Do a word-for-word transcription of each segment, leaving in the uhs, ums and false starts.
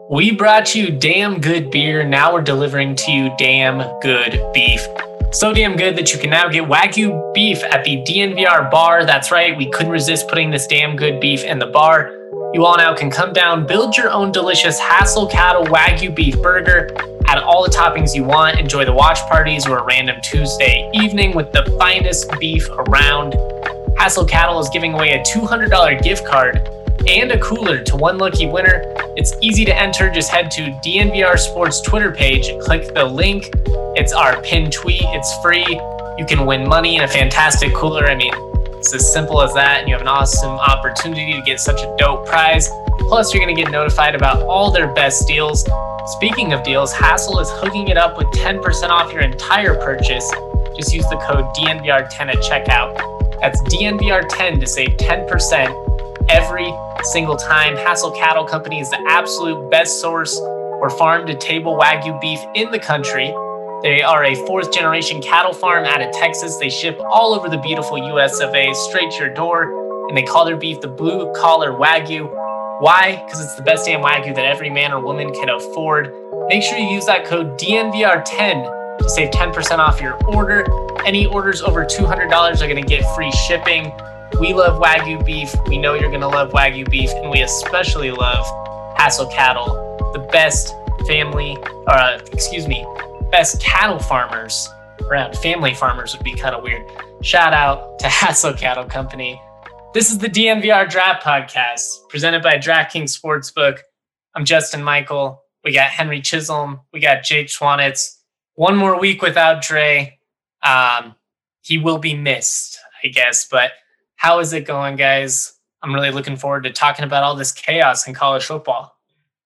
We brought you damn good beer. Now we're delivering to you damn good beef. So damn good that you can now get Wagyu beef at the D N V R bar. That's right, we couldn't resist putting this damn good beef in the bar. You all now can come down, build your own delicious Hassel Cattle Wagyu beef burger, add all the toppings you want, enjoy the watch parties or a random Tuesday evening with the finest beef around. Hassel Cattle is giving away a two hundred dollars gift card and a cooler to one lucky winner. It's easy to enter. Just head to D N V R Sports Twitter page, click the link. It's our pinned tweet. It's free. You can win money and a fantastic cooler. I mean, it's as simple as that, and you have an awesome opportunity to get such a dope prize. Plus, you're going to get notified about all their best deals. Speaking of deals, Hassel is hooking it up with ten percent off your entire purchase. Just use the code D N V R ten at checkout. That's D N V R ten to save ten percent every single time. Hassel Cattle Company is the absolute best source for farm-to-table Wagyu beef in the country. They are a fourth-generation cattle farm out of Texas. They ship all over the beautiful U S of A straight to your door, and they call their beef the blue-collar Wagyu. Why? Because it's the best damn Wagyu that every man or woman can afford. Make sure you use that code D N V R ten to save ten percent off your order. Any orders over two hundred dollars are going to get free shipping. We love Wagyu beef. We know you're going to love Wagyu beef, and we especially love Hassel Cattle, the best family, or uh, excuse me, best cattle farmers around. Family farmers would be kind of weird. Shout out to Hassel Cattle Company. This is the D N V R Draft Podcast, presented by DraftKings Sportsbook. I'm Justin Michael. We got Henry Chisholm. We got Jake Schwanitz. One more week without Dre. Um, he will be missed, I guess, but how is it going, guys? I'm really looking forward to talking about all this chaos in college football.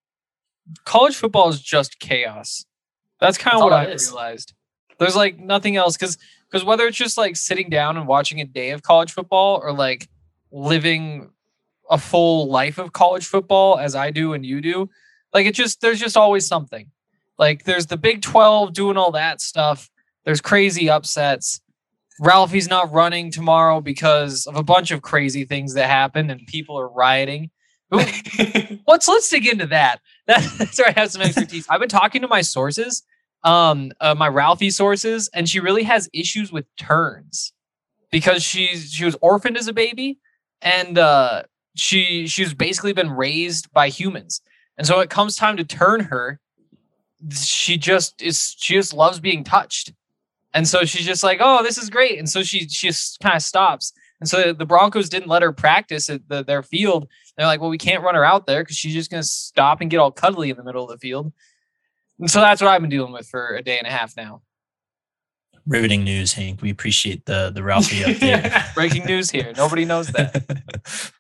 College football is just chaos. That's kind of what I realized. There's like nothing else, because because whether it's just like sitting down and watching a day of college football or like living a full life of college football as I do and you do, like it just there's just always something. Like there's the Big twelve doing all that stuff. There's crazy upsets. Ralphie's not running tomorrow because of a bunch of crazy things that happened and people are rioting. Let's let's dig into that. that. That's where I have some expertise. I've been talking to my sources, um, uh, my Ralphie sources, and she really has issues with turns because she's she was orphaned as a baby, and uh, she she's basically been raised by humans, and so it comes time to turn her. She just is. She just loves being touched. And so she's just like, oh, this is great. And so she, she just kind of stops. And so the Broncos didn't let her practice at the, their field. They're like, well, we can't run her out there because she's just going to stop and get all cuddly in the middle of the field. And so that's what I've been dealing with for a day and a half now. Riveting news, Hank. We appreciate the, the Ralphie update. Breaking news here. Nobody knows that.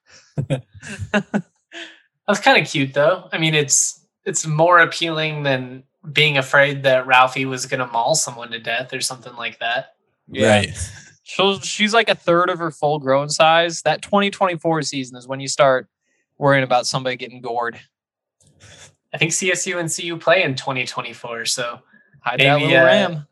That's kind of cute, though. I mean, it's it's more appealing than being afraid that Ralphie was going to maul someone to death or something like that. Yeah. Right. So she's like a third of her full grown size. That twenty twenty-four season is when you start worrying about somebody getting gored. I think C S U and C U play in twenty twenty-four. So hide that little uh... ram.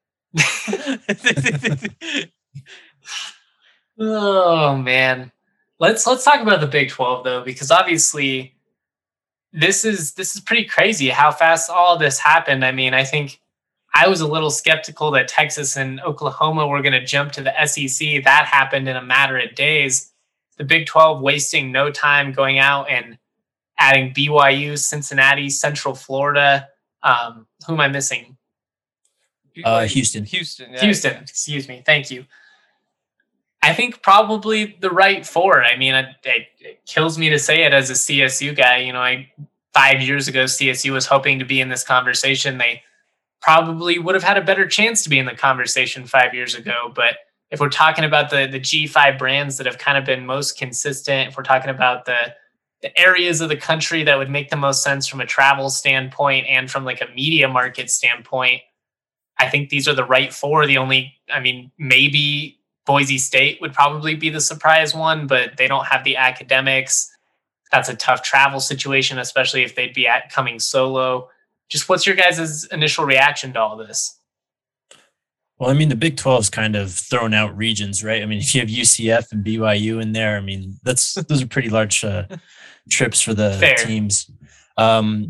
Oh man. Let's, let's talk about the Big twelve though, because obviously This is this is pretty crazy how fast all this happened. I mean, I think I was a little skeptical that Texas and Oklahoma were going to jump to the S E C. That happened in a matter of days. The Big twelve wasting no time going out and adding B Y U, Cincinnati, Central Florida. Um, who am I missing? Uh, Houston. Houston. Yeah. Houston. Excuse me. Thank you. I think probably the right four. I mean, it, it kills me to say it as a C S U guy. You know, I five years ago, C S U was hoping to be in this conversation. They probably would have had a better chance to be in the conversation five years ago. But if we're talking about the, the G five brands that have kind of been most consistent, if we're talking about the, the areas of the country that would make the most sense from a travel standpoint and from like a media market standpoint, I think these are the right four. The only, I mean, maybe Boise State would probably be the surprise one, but they don't have the academics. That's a tough travel situation, especially if they'd be at coming solo. Just what's your guys' initial reaction to all this? Well, I mean, the Big twelve is kind of thrown out regions, right? I mean, if you have U C F and B Y U in there, I mean, that's those are pretty large uh, trips for the Fair. teams. Um,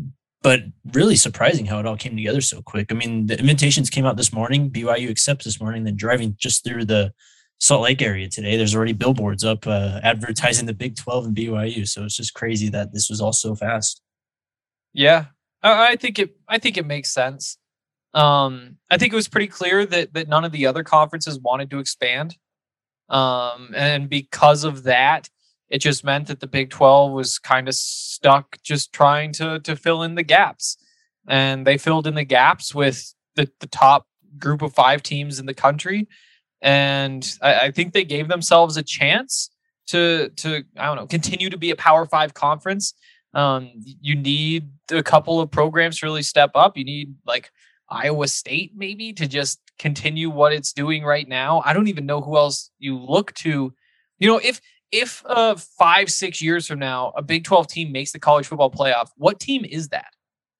but really surprising how it all came together so quick. I mean, the invitations came out this morning. B Y U accepts this morning, then driving just through the Salt Lake area today, there's already billboards up uh, advertising the Big twelve and B Y U. So it's just crazy that this was all so fast. Yeah, I, I think it. I think it makes sense. Um, I think it was pretty clear that that none of the other conferences wanted to expand, um, and because of that, it just meant that the Big twelve was kind of stuck, just trying to to fill in the gaps, and they filled in the gaps with the the top group of five teams in the country. And I, I think they gave themselves a chance to, to I don't know, continue to be a Power Five conference. Um, you need a couple of programs to really step up. You need like Iowa State maybe to just continue what it's doing right now. I don't even know who else you look to. You know, if if uh, five, six years from now, a Big twelve team makes the college football playoff, what team is that?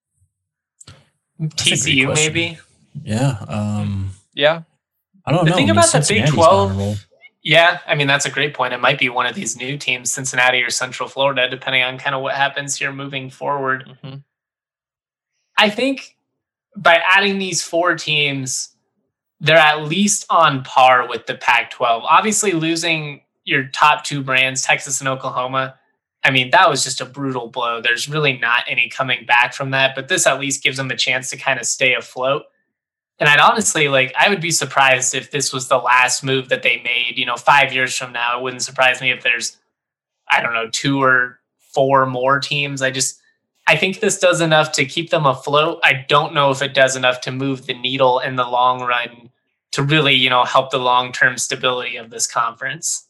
T C U maybe? Yeah. Um, yeah. I don't the know. thing I mean, about the Big twelve, yeah, I mean, that's a great point. It might be one of these new teams, Cincinnati or Central Florida, depending on kind of what happens here moving forward. Mm-hmm. I think by adding these four teams, they're at least on par with the Pac twelve. Obviously, losing your top two brands, Texas and Oklahoma, I mean, that was just a brutal blow. There's really not any coming back from that, but this at least gives them a chance to kind of stay afloat. And I'd honestly, like, I would be surprised if this was the last move that they made. You know, five years from now, it wouldn't surprise me if there's, I don't know, two or four more teams. I just, I think this does enough to keep them afloat. I don't know if it does enough to move the needle in the long run to really, you know, help the long-term stability of this conference.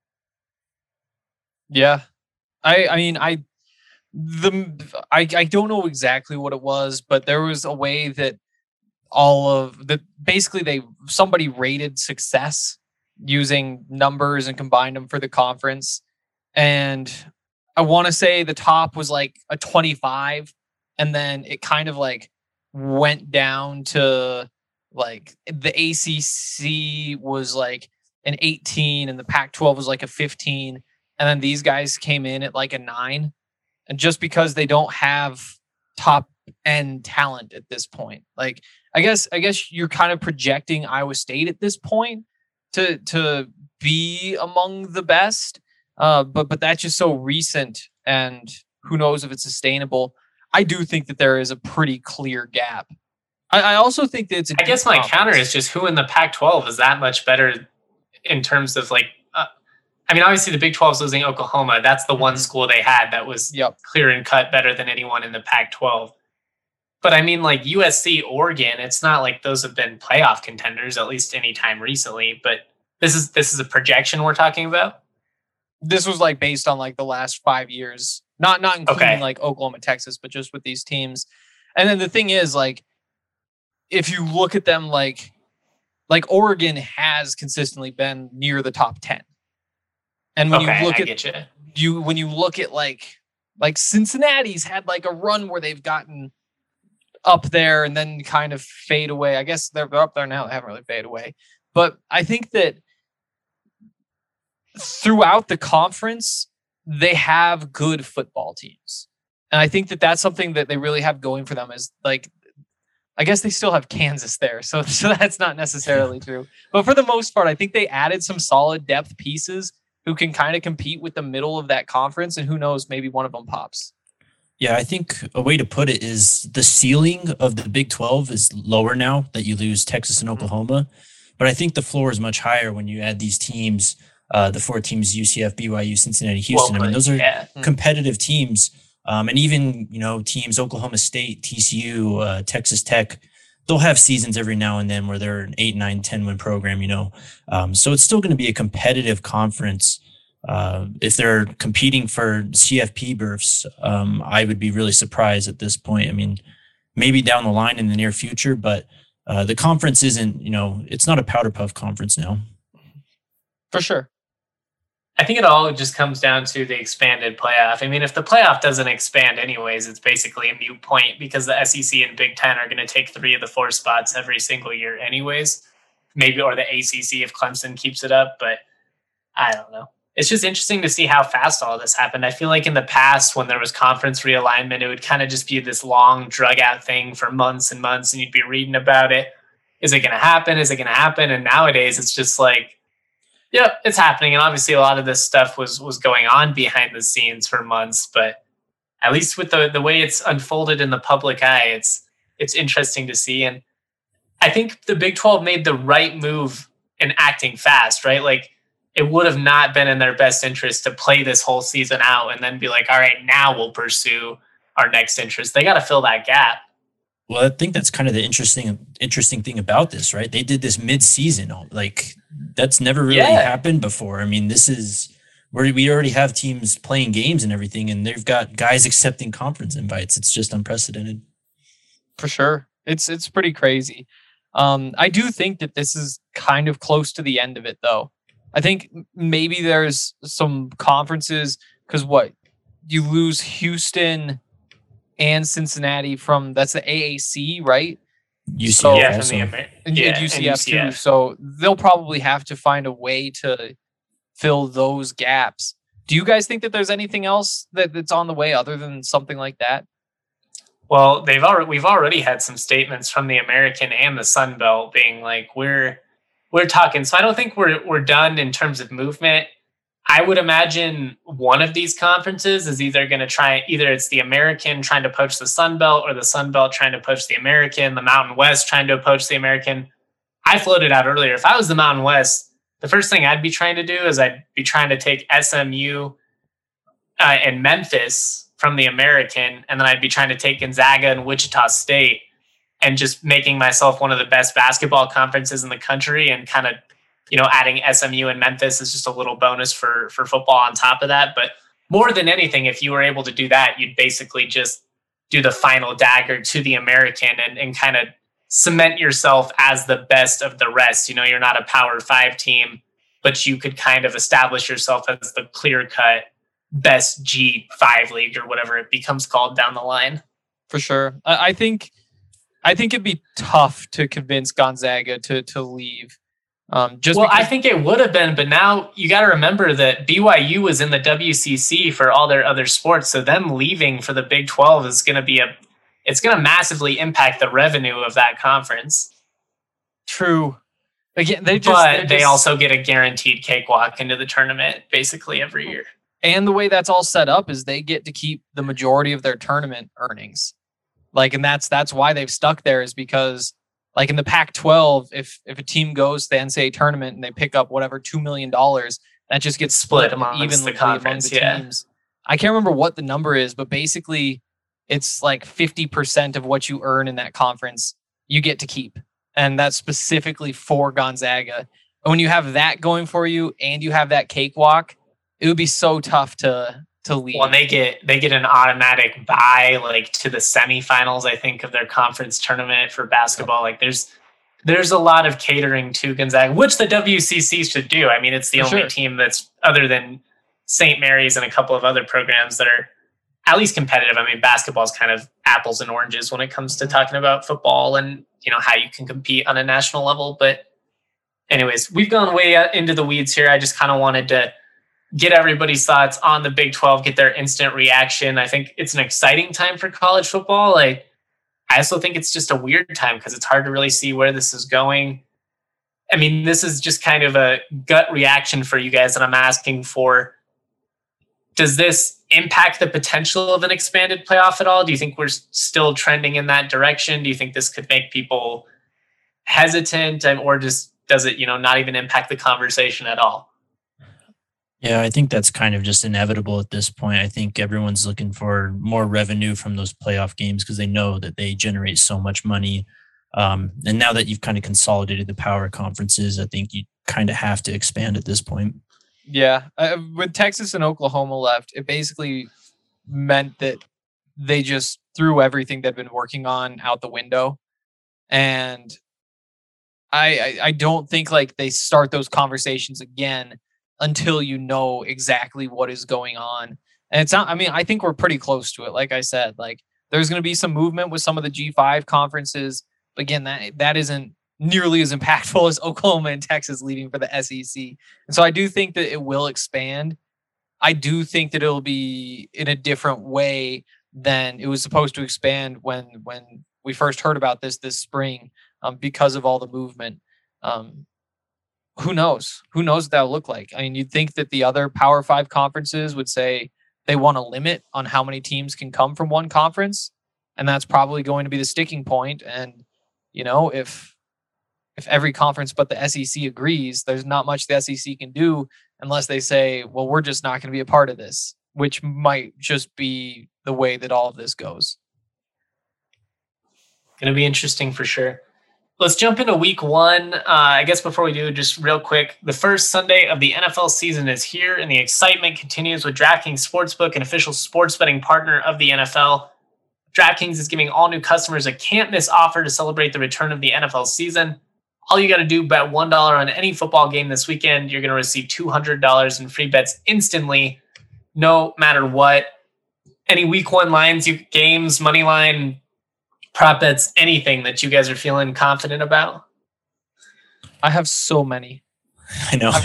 Yeah. I, I mean, I, the, I, I don't know exactly what it was, but there was a way that all of the basically they somebody rated success using numbers and combined them for the conference, and I want to say the top was like a twenty-five, and then it kind of like went down to like the A C C was like an eighteen and the Pac twelve was like a fifteen, and then these guys came in at like a nine, and just because they don't have top end talent at this point, like I guess I guess you're kind of projecting Iowa State at this point to to be among the best, uh, but but that's just so recent, and who knows if it's sustainable. I do think that there is a pretty clear gap. I, I also think that it's. A I guess my counter is just who in the Pac twelve is that much better in terms of like. Uh, I mean, obviously the Big twelve is losing Oklahoma. That's the one school they had that was yep. clear and cut better than anyone in the Pac twelve. But I mean, like U S C, Oregon, it's not like those have been playoff contenders, at least any time recently. But this is this is a projection we're talking about. This was like based on like the last five years, not not including okay. like Oklahoma, Texas, but just with these teams. And then the thing is, like, if you look at them, like, like Oregon has consistently been near the top ten. And when okay, you look I at get you. you, when you look at like like Cincinnati's had like a run where they've gotten up there and then kind of fade away. I guess they're, they're up there now. They haven't really faded away. But I think that throughout the conference, they have good football teams. And I think that that's something that they really have going for them is like, I guess they still have Kansas there. So, so that's not necessarily true. But for the most part, I think they added some solid depth pieces who can kind of compete with the middle of that conference. And who knows, maybe one of them pops. Yeah, I think a way to put it is the ceiling of the Big twelve is lower now that you lose Texas and Oklahoma. But I think the floor is much higher when you add these teams, uh, the four teams, U C F, B Y U, Cincinnati, Houston. Well, I mean, those are yeah. competitive teams. Um, and even, you know, teams, Oklahoma State, T C U, uh, Texas Tech, they'll have seasons every now and then where they're an eight, nine, ten win program, you know. Um, so it's still going to be a competitive conference. Uh, if they're competing for C F P berths, um, I would be really surprised at this point. I mean, maybe down the line in the near future, but uh, the conference isn't, you know, it's not a powder puff conference now. For sure. I think it all just comes down to the expanded playoff. I mean, if the playoff doesn't expand anyways, it's basically a moot point because the S E C and Big Ten are going to take three of the four spots every single year anyways. Maybe, or the A C C if Clemson keeps it up, but I don't know. it's just interesting to see how fast all this happened. I feel like in the past, when there was conference realignment, it would kind of just be this long drug out thing for months and months, and you'd be reading about it. Is it going to happen? Is it going to happen? And nowadays it's just like, yep, it's happening. And obviously a lot of this stuff was, was going on behind the scenes for months, but at least with the, the way it's unfolded in the public eye, it's, it's interesting to see. And I think the Big twelve made the right move in acting fast, right? Like, it would have not been in their best interest to play this whole season out and then be like, all right, now we'll pursue our next interest. They got to fill that gap. Well, I think that's kind of the interesting interesting thing about this, right? They did this mid-season. Like, that's never really Yeah. happened before. I mean, this is where we already have teams playing games and everything, and they've got guys accepting conference invites. It's just unprecedented. For sure. It's it's pretty crazy. Um, I do think that this is kind of close to the end of it, though. I think maybe there's some conferences, because what? You lose Houston and Cincinnati from, that's the A A C, right? U C F So- Yeah, from also. the Amer- And, yeah, and U C F and U C F. too. So they'll probably have to find a way to fill those gaps. Do you guys think that there's anything else that, that's on the way other than something like that? Well, they've already we've already had some statements from the American and the Sun Belt being like, we're we're talking. So I don't think we're we're done in terms of movement. I would imagine one of these conferences is either going to try, either it's the American trying to poach the Sun Belt, or the Sun Belt trying to poach the American, the Mountain West trying to poach the American. I floated out earlier, if I was the Mountain West, the first thing I'd be trying to do is I'd be trying to take S M U uh, and Memphis from the American, and then I'd be trying to take Gonzaga and Wichita State, and just making myself one of the best basketball conferences in the country, and kind of, you know, adding S M U and Memphis is just a little bonus for, for football on top of that. But more than anything, if you were able to do that, you'd basically just do the final dagger to the American and, and kind of cement yourself as the best of the rest. You know, you're not a Power Five team, but you could kind of establish yourself as the clear-cut best G five league, or whatever it becomes called down the line. For sure. I, I think I think it'd be tough to convince Gonzaga to to leave. Um, just well, because, I think it would have been, but now you got to remember that B Y U was in the W C C for all their other sports, so them leaving for the Big twelve is going to be a, it's going to massively impact the revenue of that conference. true. Again, they just, But they just- also get a guaranteed cakewalk into the tournament basically every year. and the way that's all set up is they get to keep the majority of their tournament earnings. Like, and that's that's why they've stuck there, is because, like, in the Pac twelve, if if a team goes to the N C double A tournament and they pick up whatever two million dollars, that just gets split, Split amongst evenly the conference, among the yeah. teams. I can't remember what the number is, but basically it's like fifty percent of what you earn in that conference you get to keep. And that's specifically for Gonzaga. And when you have that going for you and you have that cakewalk, it would be so tough to to leave. Well, and they get they get an automatic bye, like, to the semifinals, I think, of their conference tournament for basketball. Like, there's there's a lot of catering to Gonzaga, which the W C C should do. I mean, it's the For only sure. team that's, other than Saint Mary's and a couple of other programs, that are at least competitive. I mean, basketball is kind of apples and oranges when it comes to talking about football and, you know, how you can compete on a national level. But anyways, we've gone way uh, into the weeds here. I just kind of wanted to get everybody's thoughts on the Big twelve, get their instant reaction. I think it's an exciting time for college football. Like, I also think it's just a weird time because it's hard to really see where this is going. I mean, this is just kind of a gut reaction for you guys that I'm asking for. Does this impact the potential of an expanded playoff at all? Do you think we're still trending in that direction? Do you think this could make people hesitant, or just does it, you know, not even impact the conversation at all? Yeah, I think that's kind of just inevitable at this point. I think everyone's looking for more revenue from those playoff games because they know that they generate so much money. Um, and now that you've kind of consolidated the power conferences, I think you kind of have to expand at this point. Yeah. Uh, when Texas and Oklahoma left, it basically meant that they just threw everything they'd been working on out the window. And I, I, I don't think like they start those conversations again until you know exactly what is going on. And it's not, I mean, I think we're pretty close to it. Like I said, like there's going to be some movement with some of the G five conferences. But again, that that isn't nearly as impactful as Oklahoma and Texas leaving for the S E C. And so I do think that it will expand. I do think that it'll be in a different way than it was supposed to expand when when we first heard about this this spring, um, because of all the movement. Um, who knows? Who knows what that'll look like? I mean, you'd think that the other Power Five conferences would say they want a limit on how many teams can come from one conference, and that's probably going to be the sticking point. And you know, if if every conference but the S E C agrees, there's not much the S E C can do unless they say, well, we're just not going to be a part of this, which might just be the way that all of this goes. Going to be interesting for sure. Let's jump into week one. Uh, I guess before we do, just real quick, the first Sunday of the N F L season is here, and the excitement continues with DraftKings Sportsbook, an official sports betting partner of the N F L. DraftKings is giving all new customers a can't-miss offer to celebrate the return of the N F L season. All you got to do, bet one dollar on any football game this weekend. You're going to receive two hundred dollars in free bets instantly, no matter what. Any week one lines, you games, money line, prop bets, anything that you guys are feeling confident about? I have so many. I know.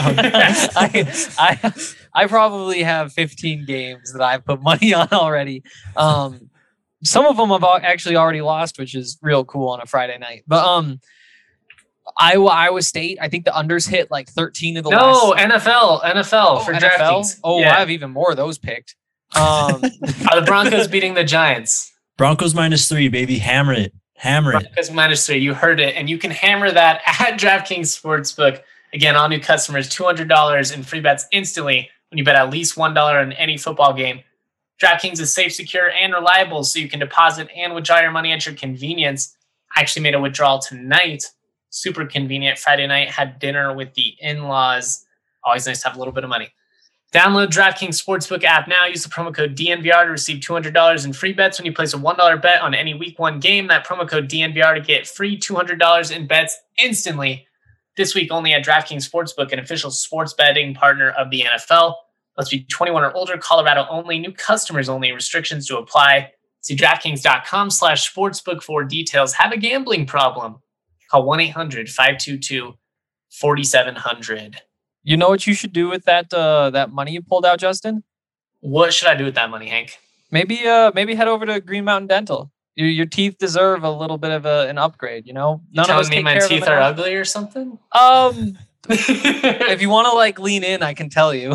I, I I probably have fifteen games that I've put money on already. Um, some of them I've actually already lost, which is real cool on a Friday night. But um. Iowa, Iowa State. I think the unders hit like thirteen of the no, last. No, N F L, N F L oh, for N F L? DraftKings. Oh, yeah. I have even more of those picked. Um, Are the Broncos beating the Giants? Broncos minus three, baby. Hammer it. Hammer it. Broncos minus three. You heard it. And you can hammer that at DraftKings Sportsbook. Again, all new customers, two hundred dollars in free bets instantly when you bet at least one dollar on any football game. DraftKings is safe, secure, and reliable, so you can deposit and withdraw your money at your convenience. I actually made a withdrawal tonight. Super convenient. Friday night, had dinner with the in-laws. Always nice to have a little bit of money. Download DraftKings Sportsbook app now. Use the promo code D N V R to receive two hundred dollars in free bets when you place a one dollar bet on any week one game. That promo code D N V R to get free two hundred dollars in bets instantly. This week only at DraftKings Sportsbook, an official sports betting partner of the N F L. Must be twenty-one or older, Colorado only, new customers only, restrictions to apply. See DraftKings.com slash sportsbook for details. Have a gambling problem? Call one eight hundred five two two four seven zero zero. You know what you should do with that uh, that money you pulled out, Justin? What should I do with that money, Hank? Maybe uh, maybe head over to Green Mountain Dental. Your, your teeth deserve a little bit of a, an upgrade, you know? None you of us me my teeth are enough. Ugly or something? Um, if you want to like lean in, I can tell you.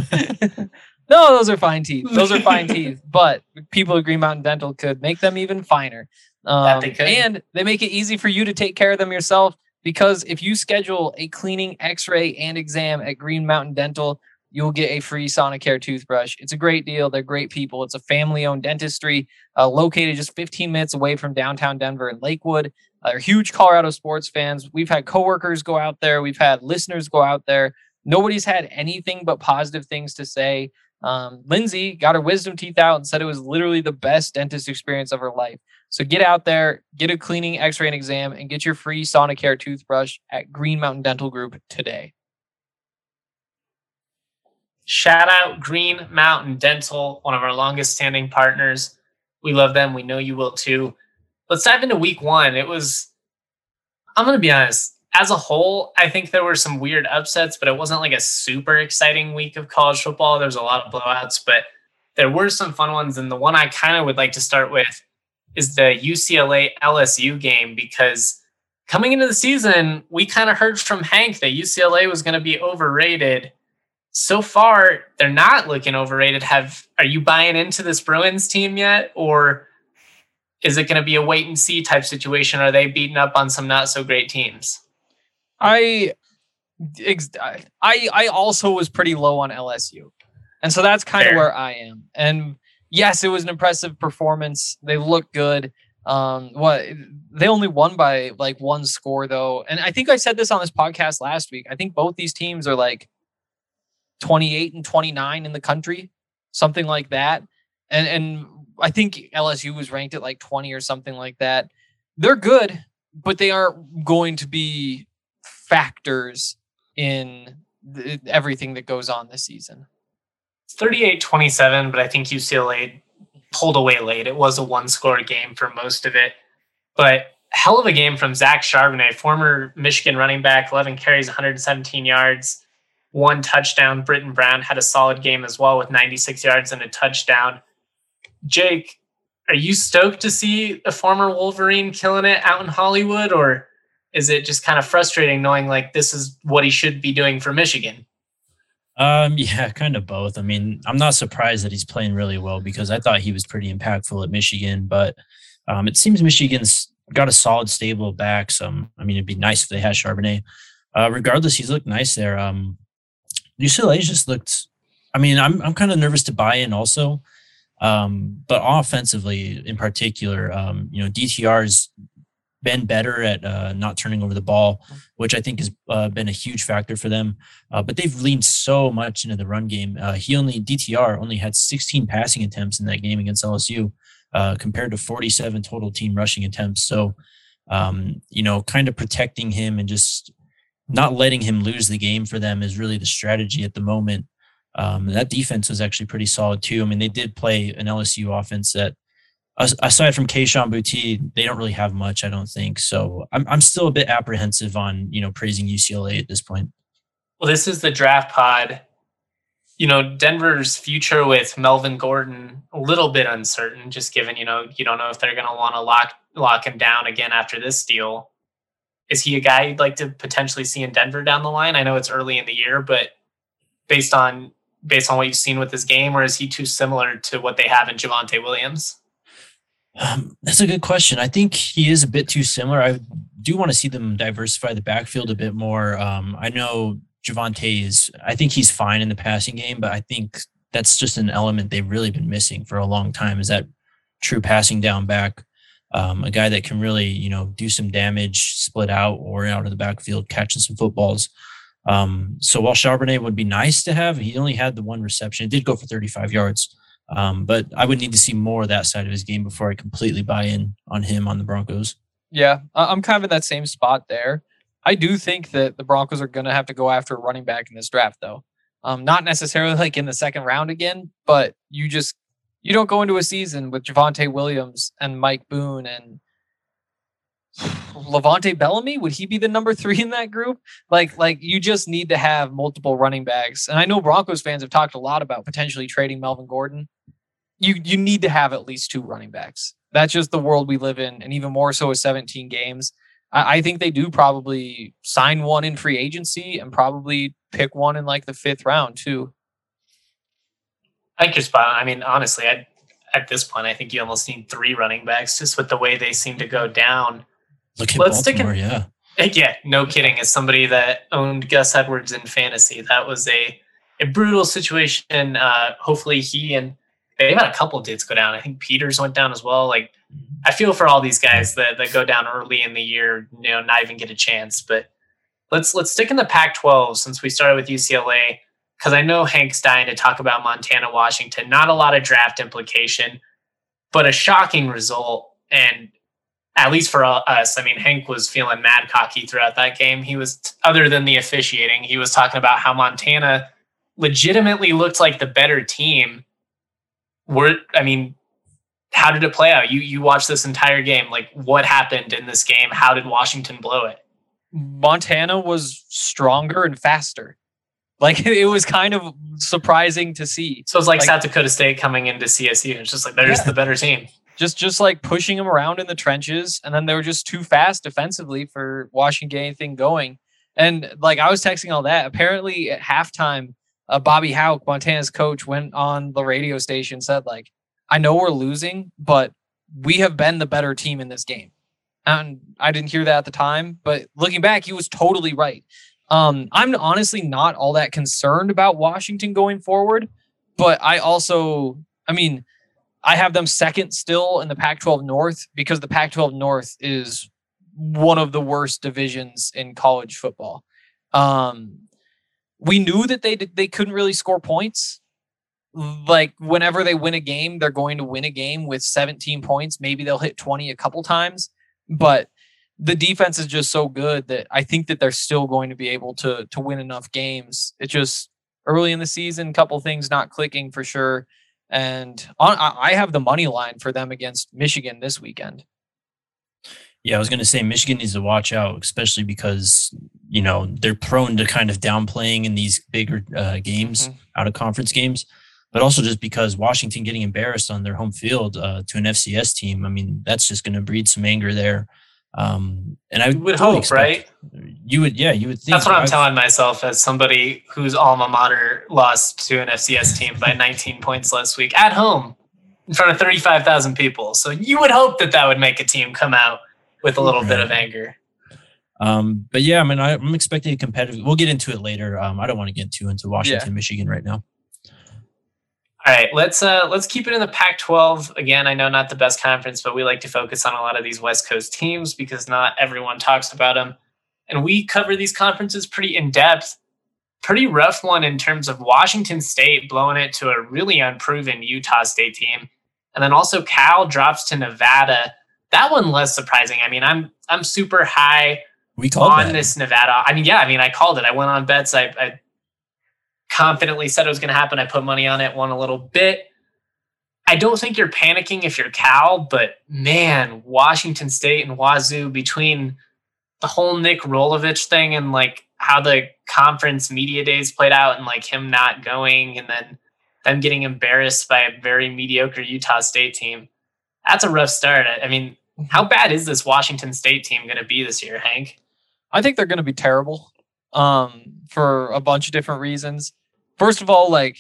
No, those are fine teeth. Those are fine teeth. But people at Green Mountain Dental could make them even finer. Um, they and they make it easy for you to take care of them yourself, because if you schedule a cleaning, x-ray, and exam at Green Mountain Dental, you'll get a free Sonicare toothbrush. It's a great deal. They're great people. It's a family-owned dentistry uh, located just fifteen minutes away from downtown Denver and Lakewood. Uh, they're huge Colorado sports fans. We've had coworkers go out there. We've had listeners go out there. Nobody's had anything but positive things to say. Um, Lindsay got her wisdom teeth out and said it was literally the best dentist experience of her life. So get out there, get a cleaning, x-ray, and exam, and get your free Sonicare toothbrush at Green Mountain Dental Group today. Shout out Green Mountain Dental, one of our longest standing partners. We love them. We know you will too. Let's dive into week one. It was, I'm going to be honest, as a whole, I think there were some weird upsets, but it wasn't like a super exciting week of college football. There was a lot of blowouts, but there were some fun ones. And the one I kind of would like to start with is the U C L A L S U game, because coming into the season, we kind of heard from Hank that U C L A was going to be overrated. So far, they're not looking overrated. Have are you buying into this Bruins team yet? Or is it going to be a wait and see type situation? Are they beating up on some not so great teams? I, I, I also was pretty low on L S U. And so that's kind of where I am. And yes, it was an impressive performance. They looked good. Um, what they only won by like one score though. And I think I said this on this podcast last week. I think both these teams are like twenty-eight and twenty-nine in the country, something like that. And, and I think L S U was ranked at like twenty or something like that. They're good, but they aren't going to be factors in the, everything that goes on this season. thirty-eight twenty-seven, but I think U C L A pulled away late. It was a one-score game for most of it. But hell of a game from Zach Charbonnet, former Michigan running back, eleven carries, one hundred seventeen yards, one touchdown. Britton Brown had a solid game as well with ninety-six yards and a touchdown. Jake, are you stoked to see a former Wolverine killing it out in Hollywood, or is it just kind of frustrating knowing like this is what he should be doing for Michigan? Um, yeah, kind of both. I mean, I'm not surprised that he's playing really well because I thought he was pretty impactful at Michigan, but um, it seems Michigan's got a solid stable of backs. Um, I mean, it'd be nice if they had Charbonnet. Uh, regardless, he's looked nice there. Um, U C L A just looked. I mean, I'm I'm kind of nervous to buy in also, um, but offensively in particular, um, you know, D T R's been better at uh, not turning over the ball, which I think has uh, been a huge factor for them. Uh, but they've leaned so much into the run game. Uh, he only D T R only had sixteen passing attempts in that game against L S U, uh, compared to forty-seven total team rushing attempts. So, um, you know, kind of protecting him and just not letting him lose the game for them is really the strategy at the moment. Um, that defense was actually pretty solid too. I mean, they did play an L S U offense that, aside from Kayshon Boutte, they don't really have much, I don't think. So I'm I'm still a bit apprehensive on, you know, praising U C L A at this point. Well, this is the draft pod. You know, Denver's future with Melvin Gordon, a little bit uncertain, just given, you know, you don't know if they're going to want to lock lock him down again after this deal. Is he a guy you'd like to potentially see in Denver down the line? I know it's early in the year, but based on based on what you've seen with this game, or is he too similar to what they have in Javonte Williams? Um, that's a good question. I think he is a bit too similar. I do want to see them diversify the backfield a bit more. Um, I know Javonte is, I think he's fine in the passing game, but I think that's just an element they've really been missing for a long time, is that true passing down back. Um, a guy that can really, you know, do some damage, split out or out of the backfield, catching some footballs. Um, so while Charbonnet would be nice to have, he only had the one reception. It did go for thirty-five yards. Um, but I would need to see more of that side of his game before I completely buy in on him on the Broncos. Yeah, I'm kind of in that same spot there. I do think that the Broncos are going to have to go after a running back in this draft, though. Um, not necessarily like in the second round again, but you just you don't go into a season with Javonte Williams and Mike Boone and Levante Bellamy. Would he be the number three in that group? Like, like you just need to have multiple running backs. And I know Broncos fans have talked a lot about potentially trading Melvin Gordon. You you need to have at least two running backs. That's just the world we live in, and even more so with seventeen games. I, I think they do probably sign one in free agency and probably pick one in like the fifth round too. I think you're spot on. I mean, honestly, I, at this point, I think you almost need three running backs just with the way they seem to go down. Look at Let's Baltimore, stick in, yeah. Yeah, no kidding. As somebody that owned Gus Edwards in fantasy, that was a, a brutal situation. Uh, hopefully he and they've had a couple of dudes go down. I think Peters went down as well. Like, I feel for all these guys that, that go down early in the year, you know, not even get a chance. But let's let's stick in the Pac twelve since we started with U C L A, because I know Hank's dying to talk about Montana, Washington. Not a lot of draft implication, but a shocking result. And at least for us, I mean, Hank was feeling mad cocky throughout that game. He was, other than the officiating, he was talking about how Montana legitimately looked like the better team. We're, I mean, how did it play out? You you watched this entire game. Like, what happened in this game? How did Washington blow it? Montana was stronger and faster. Like, it was kind of surprising to see. So it's like, like South Dakota State coming into C S U. It's just like, there's yeah. the better team. Just just like pushing them around in the trenches, and then they were just too fast defensively for Washington to get anything going. And like, I was texting all that. Apparently at halftime, uh, Bobby Hauck, Montana's coach, went on the radio station, said like, I know we're losing, but we have been the better team in this game. And I didn't hear that at the time, but looking back, he was totally right. Um, I'm honestly not all that concerned about Washington going forward, but I also, I mean, I have them second still in the Pac twelve North because the Pac twelve North is one of the worst divisions in college football. Um, we knew that they they couldn't really score points. Like, whenever they win a game, they're going to win a game with seventeen points. Maybe they'll hit twenty a couple times, but the defense is just so good that I think that they're still going to be able to to win enough games. It's just early in the season, couple things not clicking for sure. And on, I have the money line for them against Michigan this weekend. Yeah, I was going to say Michigan needs to watch out, especially because, you know, they're prone to kind of downplaying in these bigger uh, games, mm-hmm. out of conference games, but also just because Washington getting embarrassed on their home field uh, to an F C S team. I mean, that's just going to breed some anger there. Um, and I you would totally hope, expect, right? You would, yeah, you would think. That's what I'm I've, telling myself as somebody whose alma mater lost to an F C S team by nineteen points last week at home in front of thirty-five thousand people. So you would hope that that would make a team come out with a little right. bit of anger. Um, but yeah, I mean, I, I'm expecting a competitive. We'll get into it later. Um, I don't want to get too into Washington, yeah. Michigan right now. All right, let's uh, let's keep it in the Pac twelve. Again, I know not the best conference, but we like to focus on a lot of these West Coast teams because not everyone talks about them. And we cover these conferences pretty in-depth. Pretty rough one in terms of Washington State blowing it to a really unproven Utah State team. And then also Cal drops to Nevada. That one less surprising. I mean, I'm I'm super high we called on that. this Nevada. I mean, yeah, I mean, I called it. I went on bets. I, I confidently said it was going to happen. I put money on it, won a little bit. I don't think you're panicking if you're Cal, but man, Washington State and Wazoo, between the whole Nick Rolovich thing and like how the conference media days played out and like him not going and then them getting embarrassed by a very mediocre Utah State team. That's a rough start. I mean, how bad is this Washington State team going to be this year, Hank? I think they're going to be terrible um, for a bunch of different reasons. First of all, like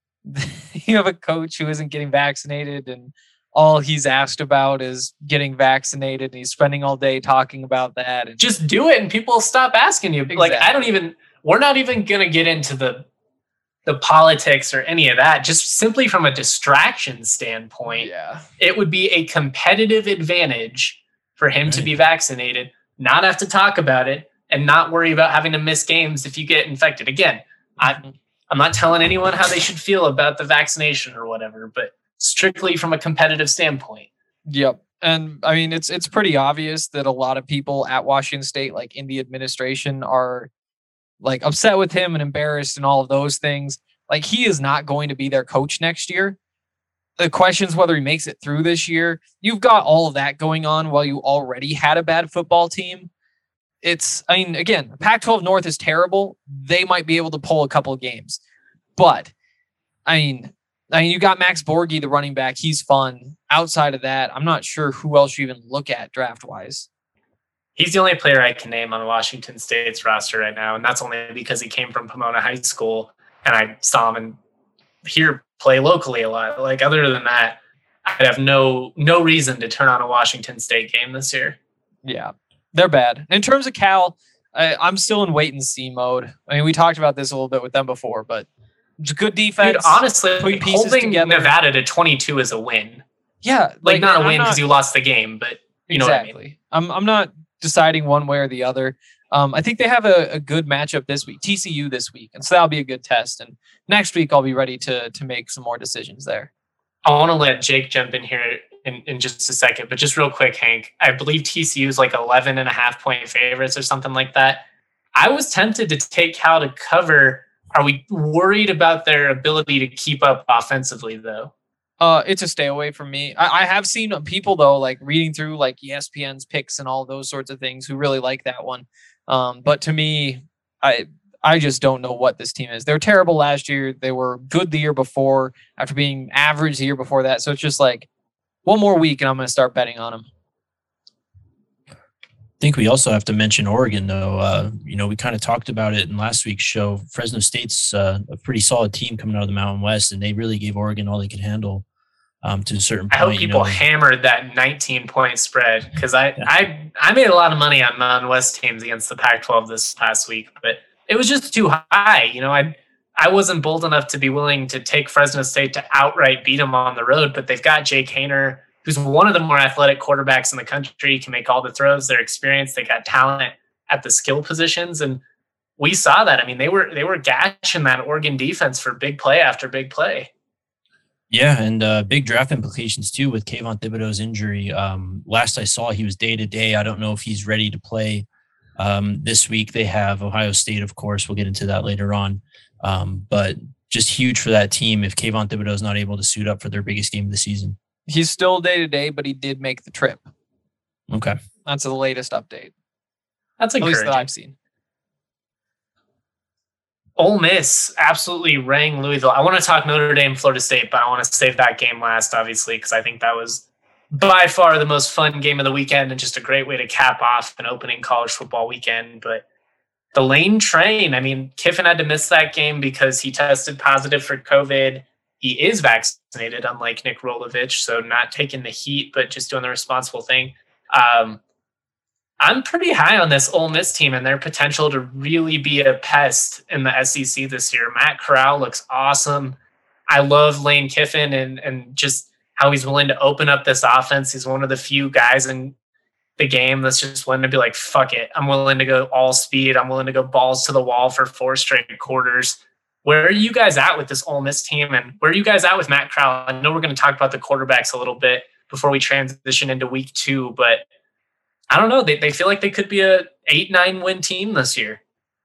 you have a coach who isn't getting vaccinated and all he's asked about is getting vaccinated and he's spending all day talking about that. And just do it and people stop asking you. Exactly. Like, I don't even, we're not even going to get into the the politics or any of that, just simply from a distraction standpoint. Yeah. It would be a competitive advantage for him right. to be vaccinated, not have to talk about it, and not worry about having to miss games if you get infected. Again, mm-hmm. I, I'm not telling anyone how they should feel about the vaccination or whatever, but strictly from a competitive standpoint. Yep. And I mean, it's it's pretty obvious that a lot of people at Washington State, like in the administration, are like upset with him and embarrassed and all of those things. Like, he is not going to be their coach next year. The question is whether he makes it through this year. You've got all of that going on while you already had a bad football team. It's, I mean, again, Pac twelve North is terrible. They might be able to pull a couple of games. But, I mean, I mean, you got Max Borghi, the running back. He's fun. Outside of that, I'm not sure who else you even look at draft-wise. He's the only player I can name on Washington State's roster right now, and that's only because he came from Pomona High School, and I saw him and here play locally a lot. Like, other than that, I'd have no no reason to turn on a Washington State game this year. Yeah, they're bad. In terms of Cal, I, I'm still in wait-and-see mode. I mean, we talked about this a little bit with them before, but it's a good defense. Dude, honestly, holding together. Nevada to twenty-two is a win. Yeah. Like, like not a win because you lost the game, but you know exactly. what I mean. I'm, I'm not deciding one way or the other. Um, I think they have a, a good matchup this week, T C U this week. And so that'll be a good test. And next week I'll be ready to to make some more decisions there. I want to let Jake jump in here in, in just a second, but just real quick, Hank, I believe T C U is like eleven and a half point favorites or something like that. I was tempted to take Cal to cover. Are we worried about their ability to keep up offensively though? Uh, it's a stay away from me. I, I have seen people though, like reading through like E S P N's picks and all those sorts of things, who really like that one. Um, but to me, I I just don't know what this team is. They were terrible last year. They were good the year before after being average the year before that. So it's just like one more week and I'm going to start betting on them. I think we also have to mention Oregon, though. Uh, you know, we kind of talked about it in last week's show. Fresno State's uh, a pretty solid team coming out of the Mountain West, and they really gave Oregon all they could handle. Um, to a certain point. I hope people you know. hammered that nineteen point spread because I, yeah. I I made a lot of money on Mountain West teams against the Pac twelve this past week, but it was just too high. You know, I I wasn't bold enough to be willing to take Fresno State to outright beat them on the road, but they've got Jake Haener, who's one of the more athletic quarterbacks in the country, can make all the throws. They're experienced. They got talent at the skill positions, and we saw that. I mean, they were they were gashing that Oregon defense for big play after big play. Yeah, and uh, big draft implications, too, with Kayvon Thibodeau's injury. Um, last I saw, he was day-to-day. I don't know if he's ready to play um, this week. They have Ohio State, of course. We'll get into that later on. Um, but just huge for that team if Kayvon Thibodeau's not able to suit up for their biggest game of the season. He's still day-to-day, but he did make the trip. Okay. That's the latest update. That's encouraging. At least that I've seen. Ole Miss absolutely rang Louisville. I want to talk Notre Dame, Florida State, but I want to save that game last, obviously, because I think that was by far the most fun game of the weekend and just a great way to cap off an opening college football weekend. But the Lane train, I mean, Kiffin had to miss that game because he tested positive for COVID. He is vaccinated, unlike Nick Rolovich, so not taking the heat, but just doing the responsible thing. Um, I'm pretty high on this Ole Miss team and their potential to really be a pest in the S E C this year. Matt Corral looks awesome. I love Lane Kiffin and, and just how he's willing to open up this offense. He's one of the few guys in the game that's just willing to be like, fuck it. I'm willing to go all speed. I'm willing to go balls to the wall for four straight quarters. Where are you guys at with this Ole Miss team? And where are you guys at with Matt Corral? I know we're going to talk about the quarterbacks a little bit before we transition into week two, but I don't know. They they feel like they could be a eight, nine win team this year.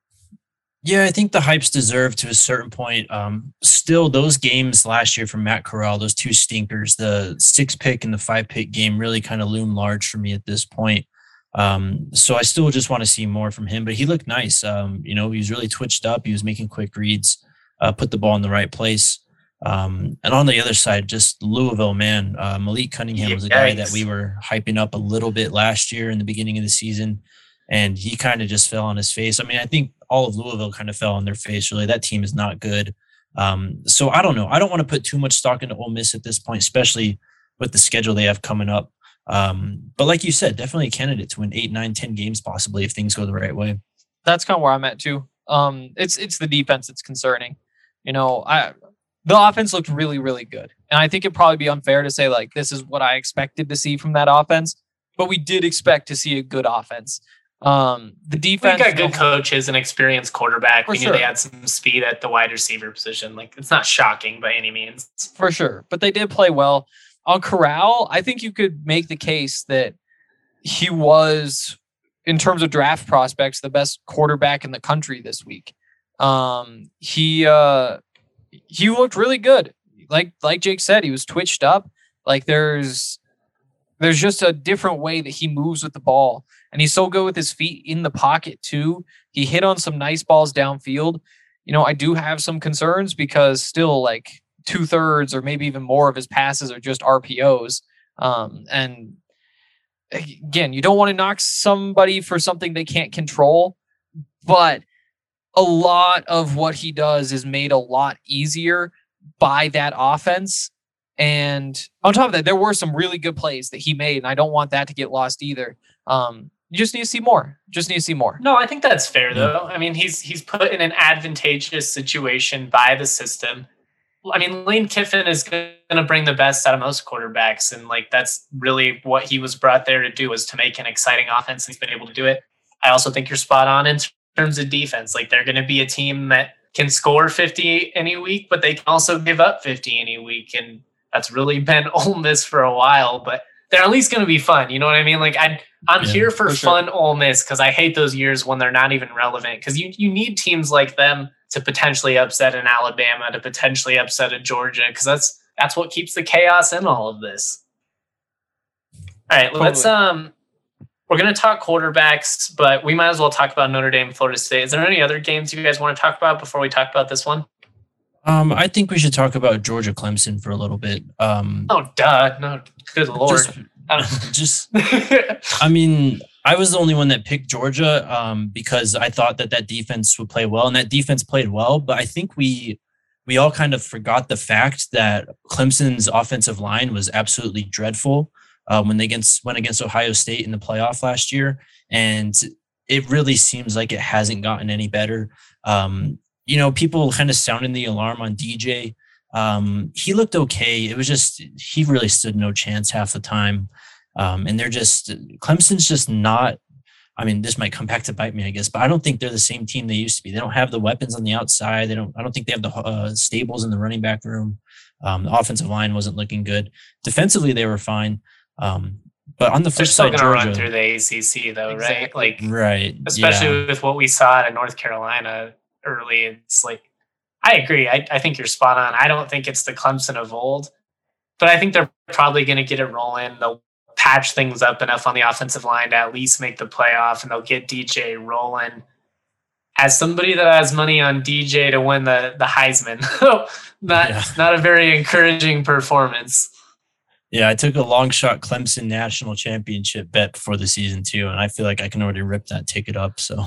Yeah, I think the hype's deserved to a certain point. Um, still, those games last year from Matt Corral, those two stinkers, the six pick and the five pick game really kind of loom large for me at this point. Um, so I still just want to see more from him, but he looked nice. Um, you know, he was really twitched up. He was making quick reads, uh, put the ball in the right place. Um, and on the other side, just Louisville, man, uh, Malik Cunningham was a guy that we were hyping up a little bit last year in the beginning of the season, and he kind of just fell on his face. I mean, I think all of Louisville kind of fell on their face, really. That team is not good. Um, so I don't know. I don't want to put too much stock into Ole Miss at this point, especially with the schedule they have coming up. Um, but like you said, definitely a candidate to win eight, nine, ten games possibly if things go the right way. That's kind of where I'm at too. Um, it's it's the defense that's concerning. You know, I the offense looked really, really good. And I think it'd probably be unfair to say, like, this is what I expected to see from that offense. But we did expect to see a good offense. Um, the defense... We got good coaches and experienced quarterback. We For knew sure. They had some speed at the wide receiver position. Like, it's not shocking by any means. For sure. But they did play well. On Corral, I think you could make the case that he was, in terms of draft prospects, the best quarterback in the country this week. Um, he... Uh, He looked really good. Like like Jake said, he was twitched up. Like there's there's just a different way that he moves with the ball. And he's so good with his feet in the pocket too. He hit on some nice balls downfield. You know, I do have some concerns because still like two thirds or maybe even more of his passes are just R P Os. Um, and again, you don't want to knock somebody for something they can't control, but a lot of what he does is made a lot easier by that offense. And on top of that, there were some really good plays that he made, and I don't want that to get lost either. Um, you just need to see more. Just need to see more. No, I think that's fair, though. I mean, he's he's put in an advantageous situation by the system. I mean, Lane Kiffin is going to bring the best out of most quarterbacks, and like that's really what he was brought there to do, was to make an exciting offense, and he's been able to do it. I also think you're spot on in terms of defense. Like, they're going to be a team that can score fifty any week, but they can also give up fifty any week, and that's really been Ole Miss for a while. But they're at least going to be fun. You know what I mean? Like, I, I'm Yeah, here for, for sure. fun Ole Miss, because I hate those years when they're not even relevant, because you, you need teams like them to potentially upset an Alabama, to potentially upset a Georgia, because that's that's what keeps the chaos in all of this. All right, Totally. let's um, we're gonna talk quarterbacks, but we might as well talk about Notre Dame, Florida State. Is there any other games you guys want to talk about before we talk about this one? Um, I think we should talk about Georgia Clemson for a little bit. Um, Oh, duh, no, good lord. just, I don't- just, I mean, I was the only one that picked Georgia um, because I thought that that defense would play well, and that defense played well. But I think we we all kind of forgot the fact that Clemson's offensive line was absolutely dreadful uh, when they against went against Ohio State in the playoff last year, and it really seems like it hasn't gotten any better. Um, you know, people kind of sounding the alarm on D J. Um, he looked okay. It was just he really stood no chance half the time. Um, and they're just Clemson's just not. I mean, this might come back to bite me, I guess, but I don't think they're the same team they used to be. They don't have the weapons on the outside. They don't. I don't think they have the uh, stables in the running back room. Um, the offensive line wasn't looking good. Defensively, they were fine. Um, but on the They're flip still side, going to run Georgia, through the A C C, though, Exactly. right? Like, right? especially yeah. with what we saw at North Carolina early. It's like, I agree. I, I think you're spot on. I don't think it's the Clemson of old, but I think they're probably going to get it rolling. They'll patch things up enough on the offensive line to at least make the playoff, and they'll get D J rolling. As somebody that has money on D J to win the, the Heisman, not, yeah. not a very encouraging performance. Yeah, I took a long shot Clemson national championship bet before the season too, and I feel like I can already rip that ticket up. So,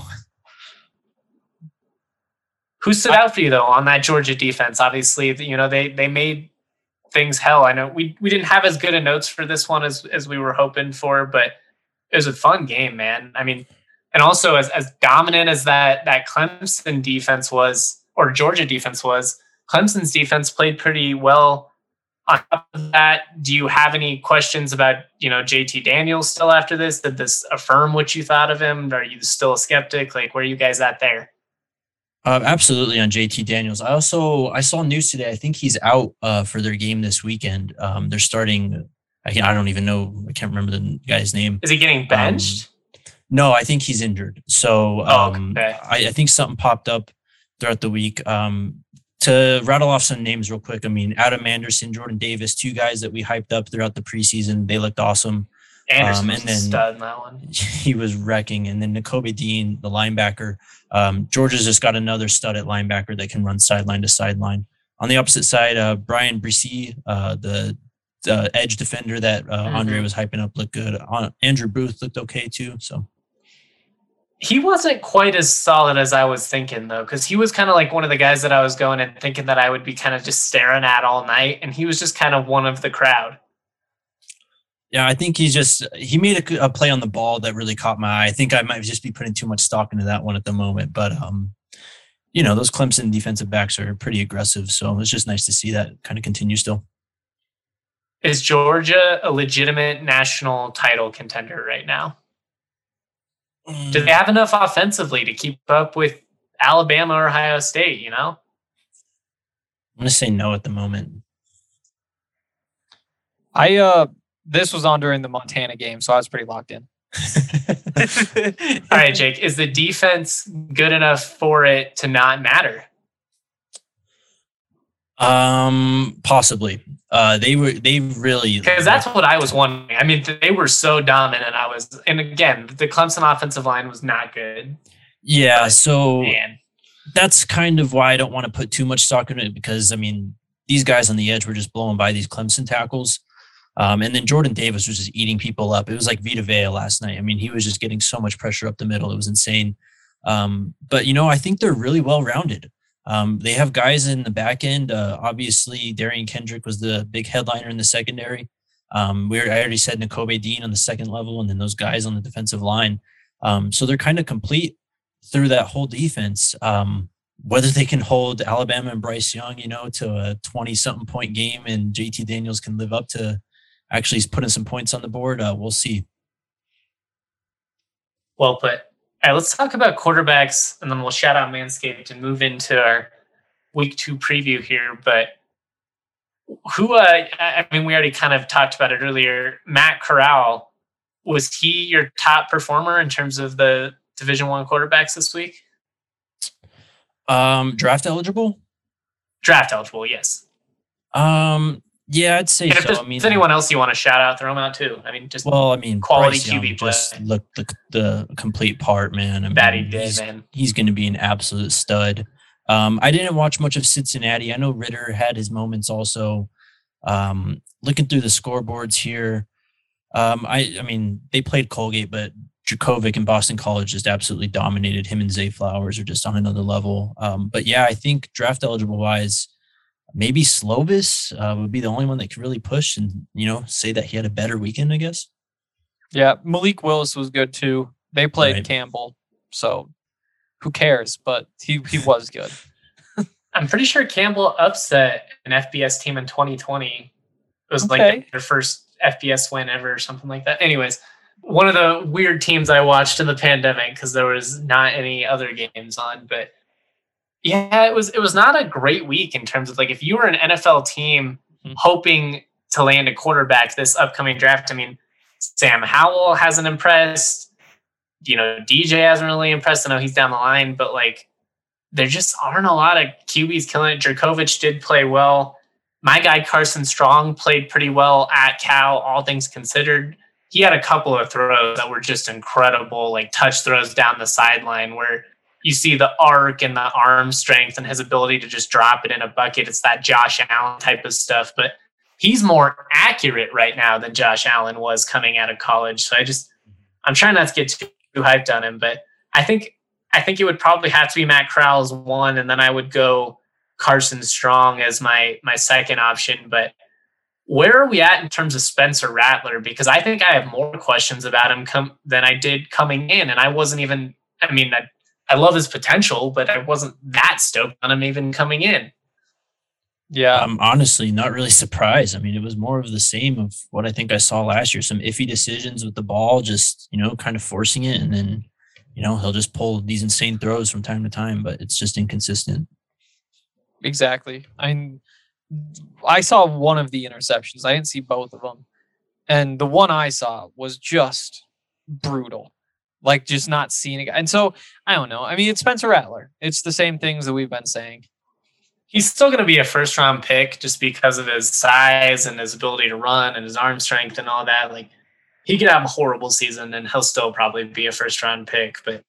who stood out for you though on that Georgia defense? Obviously, you know they they made things hell. I know we we didn't have as good of notes for this one as as we were hoping for, but it was a fun game, man. I mean, and also as as dominant as that that Clemson defense was, or Georgia defense was, Clemson's defense played pretty well. On top of that, do you have any questions about, you know, J T Daniels still after this? Did this affirm what you thought of him? Are you still a skeptic? Like, where are you guys at there? Uh, absolutely on J T Daniels. I also, I saw news today. I think he's out uh, for their game this weekend. Um, they're starting, I, I don't even know. I can't remember the guy's name. Is he getting benched? Um, no, I think he's injured. So um, oh, okay. I, I think something popped up throughout the week. Um, To rattle off some names real quick, I mean, Adam Anderson, Jordan Davis, two guys that we hyped up throughout the preseason. They looked awesome. Anderson um, and was then a stud in that one. He was wrecking. And then Nakobe Dean, the linebacker. Um, Georgia's just got another stud at linebacker that can run sideline to sideline. On the opposite side, uh, Brian Bresee, uh, the, the edge defender that uh, mm-hmm. Andre was hyping up, looked good. Uh, Andrew Booth looked okay too. So. He wasn't quite as solid as I was thinking, though, because he was kind of like one of the guys that I was going and thinking that I would be kind of just staring at all night. And he was just kind of one of the crowd. Yeah, I think he's just – he made a, a play on the ball that really caught my eye. I think I might just be putting too much stock into that one at the moment. But, um, you know, those Clemson defensive backs are pretty aggressive. So it's just nice to see that kind of continue still. Is Georgia a legitimate national title contender right now? Do they have enough offensively to keep up with Alabama or Ohio State, you know? I'm going to say no at the moment. I uh, this was on during the Montana game, so I was pretty locked in. All right, Jake, is the defense good enough for it to not matter? Um, possibly. Uh, they were, they really, because that's what I was wondering. I mean, they were so dominant. I was, and again, the Clemson offensive line was not good. Yeah. So Man. that's kind of why I don't want to put too much stock in it, because I mean, these guys on the edge were just blowing by these Clemson tackles. Um, and then Jordan Davis was just eating people up. It was like Vita Vea last night. I mean, he was just getting so much pressure up the middle. It was insane. Um, but you know, I think they're really well-rounded. Um, they have guys in the back end. Uh, obviously, Darian Kendrick was the big headliner in the secondary. Um, we I already said Nakobe Dean on the second level, and then those guys on the defensive line. Um, so they're kind of complete through that whole defense. Um, whether they can hold Alabama and Bryce Young, you know, to a twenty-something point game, and J T Daniels can live up to actually putting some points on the board, uh, we'll see. Well put. All right, let's talk about quarterbacks, and then we'll shout out Manscaped and move into our week two preview here. But who, uh, I mean, we already kind of talked about it earlier. Matt Corral, was he your top performer in terms of the Division One quarterbacks this week? Um, draft eligible? Draft eligible, yes. Um, yeah, I'd say and if so. there's I mean, anyone else you want to shout out, throw them out too. I mean, just well, I mean, quality Bryce Q B Young play. just look the the complete part, man. I mean, that he did, he's, man. He's going to be an absolute stud. Um, I didn't watch much of Cincinnati. I know Ritter had his moments also. Um, looking through the scoreboards here, um, I I mean, they played Colgate, but Djokovic and Boston College just absolutely dominated. Him and Zay Flowers are just on another level. Um, but yeah, I think draft eligible wise, maybe Slovis uh, would be the only one that could really push and, you know, say that he had a better weekend, I guess. Yeah, Malik Willis was good too. They played Right. Campbell, so who cares? But he, he was good. I'm pretty sure Campbell upset an F B S team in twenty twenty. It was Okay. like their first F B S win ever or something like that. Anyways, one of the weird teams I watched in the pandemic because there was not any other games on. But yeah, it was it was not a great week in terms of like if you were an N F L team Mhm. hoping to land a quarterback this upcoming draft. I mean, Sam Howell hasn't impressed. You know, D J hasn't really impressed. I know he's down the line, but like there just aren't a lot of Q Bs killing it. Djokovic did play well. My guy Carson Strong played pretty well at Cal, all things considered. he had a couple of throws that were just incredible, like touch throws down the sideline where you see the arc and the arm strength and his ability to just drop it in a bucket. It's that Josh Allen type of stuff, but he's more accurate right now than Josh Allen was coming out of college. So I just, I'm trying not to get too, too hyped on him, but I think, I think it would probably have to be Matt Corral as one, and then I would go Carson Strong as my, my second option. But where are we at in terms of Spencer Rattler? Because I think I have more questions about him come than I did coming in. And I wasn't even, I mean, I, I love his potential, but I wasn't that stoked on him even coming in. Yeah. I'm honestly not really surprised. I mean, it was more of the same of what I think I saw last year. Some iffy decisions with the ball, just, you know, kind of forcing it. And then, you know, he'll just pull these insane throws from time to time, but it's just inconsistent. Exactly. I I saw one of the interceptions. I didn't see both of them. And the one I saw was just brutal. Like, just not seeing it. And so, I don't know. I mean, it's Spencer Rattler. It's the same things that we've been saying. He's still going to be a first round pick just because of his size and his ability to run and his arm strength and all that. Like, he could have a horrible season and he'll still probably be a first round pick. But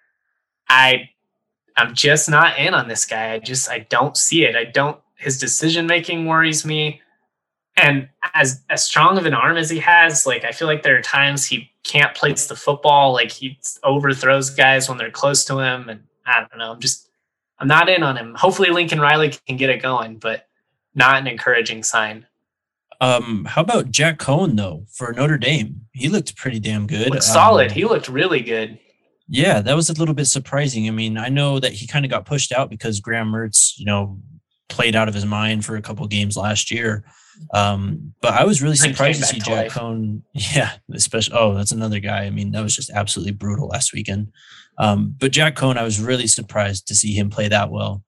I, I'm just not in on this guy. I just, I don't see it. I don't, his decision making worries me. And as, as strong of an arm as he has, like, I feel like there are times he can't place the football. Like, he overthrows guys when they're close to him. And I don't know. I'm just, I'm not in on him. Hopefully Lincoln Riley can get it going, but not an encouraging sign. Um, how about Jack Coan though for Notre Dame? He looked pretty damn good. Looked solid. Um, he looked really good. Yeah, that was a little bit surprising. I mean, I know that he kind of got pushed out because Graham Mertz, you know, played out of his mind for a couple of games last year. Um, but I was really surprised to see Jack Coan. Yeah, especially. Oh, that's another guy. I mean, that was just absolutely brutal last weekend. Um, but Jack Coan, I was really surprised to see him play that well.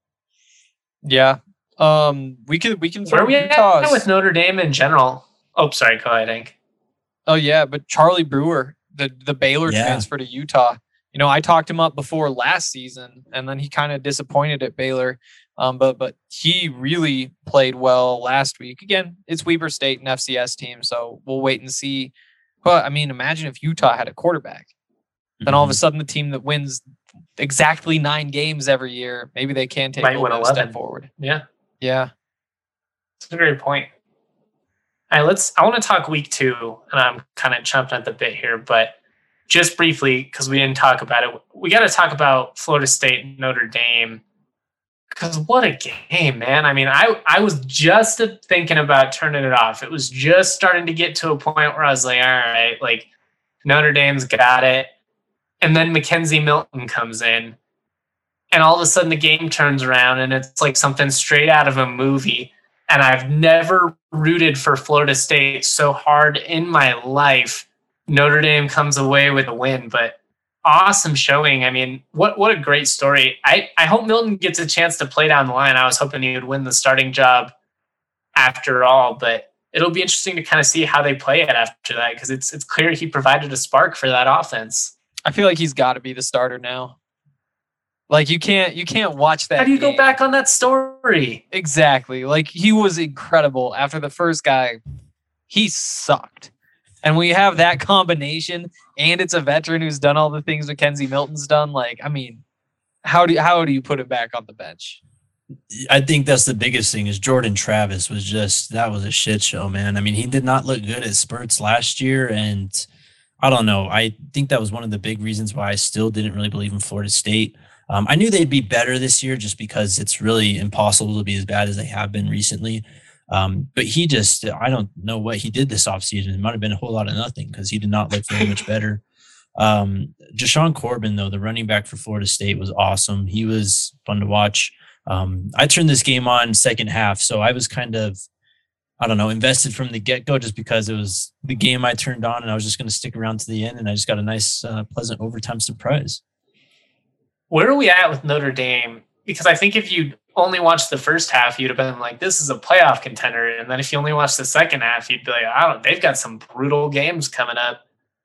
Yeah. Um, we can we can throw Where we at with Notre Dame in general. Oh, sorry, go ahead, Hank. Oh yeah, but Charlie Brewer, the the Baylor yeah. transfer to Utah. You know, I talked him up before last season, and then he kind of disappointed at Baylor. Um, but but he really played well last week. Again, it's Weber State and F C S team, so we'll wait and see. But I mean, imagine if Utah had a quarterback. Mm-hmm. Then all of a sudden, the team that wins exactly nine games every year, maybe they can take a step forward. Yeah, yeah, that's a great point. All right, let's. I want to talk week two, and I'm kind of chomping at the bit here, but just briefly because we didn't talk about it, we got to talk about Florida State and Notre Dame. Because what a game, man. I mean, I, I was just thinking about turning it off. It was just starting to get to a point where I was like, all right, like Notre Dame's got it. And then Mackenzie Milton comes in. And all of a sudden the game turns around and it's like something straight out of a movie. And I've never rooted for Florida State so hard in my life. Notre Dame comes away with a win, but awesome showing. I mean, what what a great story. I, I hope Milton gets a chance to play down the line. I was hoping he would win the starting job after all, but it'll be interesting to kind of see how they play it after that because it's it's clear he provided a spark for that offense. I feel like he's got to be the starter now. Like you can't you can't watch that. How do you game. go back on that story? Exactly. Like he was incredible after the first guy. He sucked. And when you have that combination and it's a veteran who's done all the things Mackenzie Milton's done, like, I mean, how do you, how do you put it back on the bench? I think that's the biggest thing is Jordan Travis was just, that was a shit show, man. I mean, he did not look good at spurts last year. And I don't know. I think that was one of the big reasons why I still didn't really believe in Florida State. Um, I knew they'd be better this year just because it's really impossible to be as bad as they have been recently. Um, but he just, I don't know what he did this offseason. It might have been a whole lot of nothing because he did not look very much better. Um, Jashawn Corbin, though, the running back for Florida State was awesome. He was fun to watch. Um, I turned this game on second half, so I was kind of, I don't know, invested from the get-go just because it was the game I turned on and I was just going to stick around to the end, and I just got a nice, uh, pleasant overtime surprise. Where are we at with Notre Dame? Because I think if you only watched the first half, you'd have been like, this is a playoff contender. And then if you only watched the second half, you'd be like, I don't, they've got some brutal games coming up.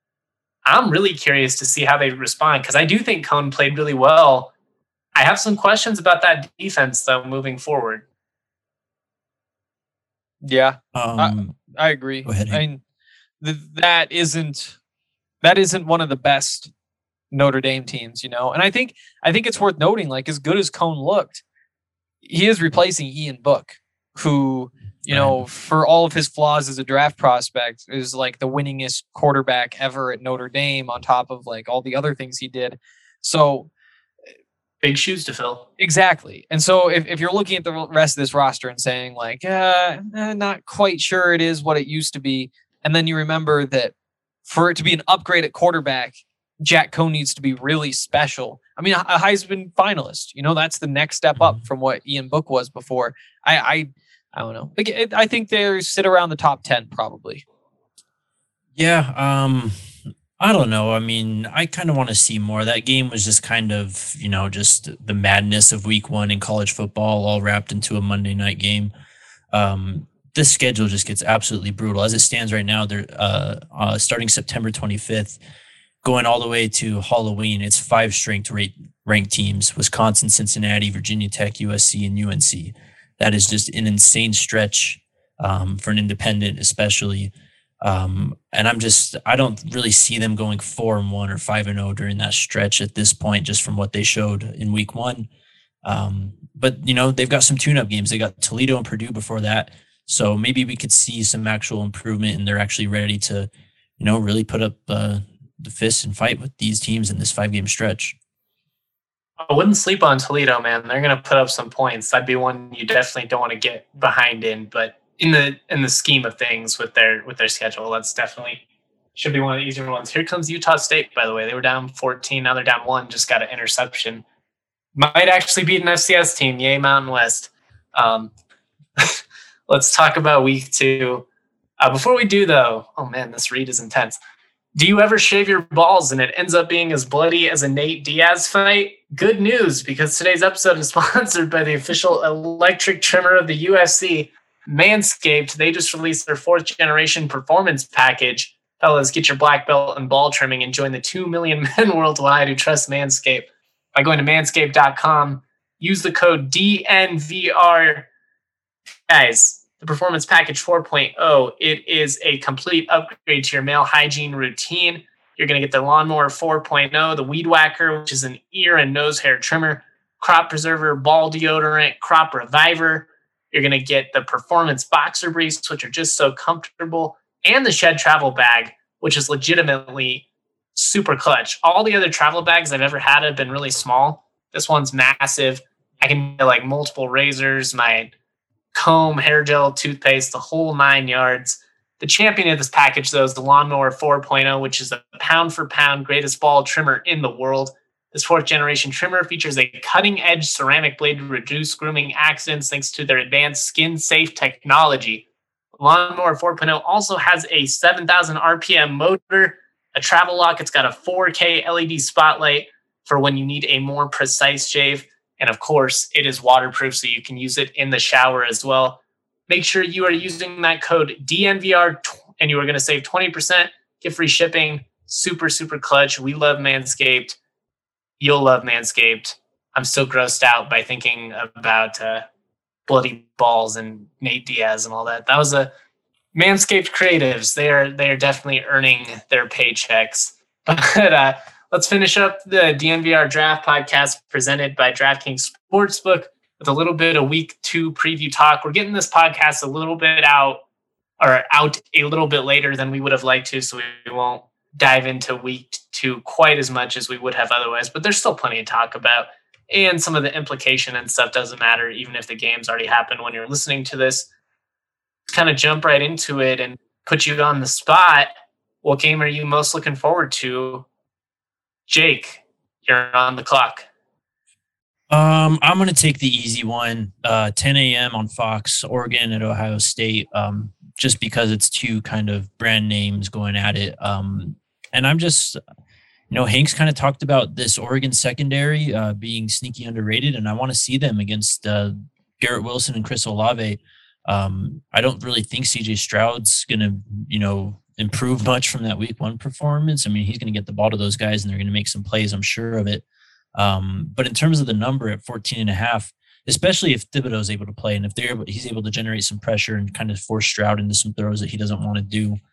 I'm really curious to see how they respond because I do think Coan played really well. I have some questions about that defense, though, moving forward. Yeah, um, I, I agree. Go ahead, I mean, th- that isn't that isn't one of the best Notre Dame teams, you know. And I think I think it's worth noting, like as good as Cohn looked, he is replacing Ian Book, who, you know, for all of his flaws as a draft prospect, is like the winningest quarterback ever at Notre Dame, on top of like all the other things he did. So big shoes to fill. Exactly. And so if, if you're looking at the rest of this roster and saying like, uh, eh, not quite sure it is what it used to be, and then you remember that for it to be an upgrade at quarterback, Jack Cohn needs to be really special. I mean, a Heisman finalist, you know, that's the next step up from what Ian Book was before. I, I, I don't know. Like, it, I think they sit around the top ten probably. Yeah. Um, I don't know. I mean, I kind of want to see more. That game was just kind of, you know, just the madness of week one in college football, all wrapped into a Monday night game. Um, this schedule just gets absolutely brutal. As it stands right now, they're uh, uh, starting September twenty-fifth, going all the way to Halloween. It's five strength rate ranked teams: Wisconsin, Cincinnati, Virginia Tech, U S C, and U N C. That is just an insane stretch um, for an independent, especially. Um, and I'm just, I don't really see them going four and one or five and oh during that stretch at this point, just from what they showed in week one. Um, but you know, they've got some tune-up games. They got Toledo and Purdue before that. So maybe we could see some actual improvement, and they're actually ready to, you know, really put up uh, the fists and fight with these teams in this five-game stretch. I wouldn't sleep on Toledo, man. They're going to put up some points. That'd be one you definitely don't want to get behind in. But in the in the scheme of things with their with their schedule, that's definitely should be one of the easier ones. Here comes Utah State, by the way. They were down fourteen. Now they're down one. Just got an interception. Might actually beat an F C S team. Yay, Mountain West. Um, let's talk about week two. Uh, before we do, though, oh, man, this read is intense. Do you ever shave your balls and it ends up being as bloody as a Nate Diaz fight? Good news, because today's episode is sponsored by the official electric trimmer of the U F C, Manscaped. They just released their fourth generation performance package. Fellas, get your black belt and ball trimming and join the two million men worldwide who trust Manscaped by going to manscaped dot com. Use the code D N V R. Guys, the Performance Package four point oh, it is a complete upgrade to your male hygiene routine. You're going to get the Lawnmower four point oh, the Weed Whacker, which is an ear and nose hair trimmer, Crop Preserver, Ball Deodorant, Crop Reviver. You're going to get the Performance Boxer Briefs, which are just so comfortable, and the Shed Travel Bag, which is legitimately super clutch. All the other travel bags I've ever had have been really small. This one's massive. I can get like multiple razors, my comb, hair gel, toothpaste, the whole nine yards. The champion of this package, though, is the Lawnmower four point oh, which is a pound-for-pound greatest ball trimmer in the world. This fourth-generation trimmer features a cutting-edge ceramic blade to reduce grooming accidents thanks to their advanced skin-safe technology. Lawnmower four point oh also has a seven thousand R P M motor, a travel lock. It's got a four K L E D spotlight for when you need a more precise shave. And of course, it is waterproof, so you can use it in the shower as well. Make sure you are using that code D N V R and you are going to save twenty percent, get free shipping. Super, super clutch. We love Manscaped. You'll love Manscaped. I'm still grossed out by thinking about uh, bloody balls and Nate Diaz and all that. That was a Manscaped creatives. They are, they are definitely earning their paychecks. But uh, let's finish up the D N V R Draft Podcast presented by DraftKings Sportsbook with a little bit of week two preview talk. We're getting this podcast a little bit out or out a little bit later than we would have liked to, so we won't dive into week two quite as much as we would have otherwise, but there's still plenty to talk about. And some of the implication and stuff doesn't matter, even if the game's already happened when you're listening to this. Kind of jump right into it and put you on the spot. What game are you most looking forward to? Jake, you're on the clock. Um, I'm going to take the easy one, uh, ten a.m. on Fox, Oregon at Ohio State, um, just because it's two kind of brand names going at it. Um, and I'm just, you know, Hank's kind of talked about this Oregon secondary uh, being sneaky underrated, and I want to see them against uh, Garrett Wilson and Chris Olave. Um, I don't really think C J Stroud's going to, you know, improve much from that week one performance. I mean, he's going to get the ball to those guys and they're going to make some plays, I'm sure of it. Um, but in terms of the number at fourteen and a half, especially if Thibodeau is able to play and if they're able, he's able to generate some pressure and kind of force Stroud into some throws that he doesn't want to do.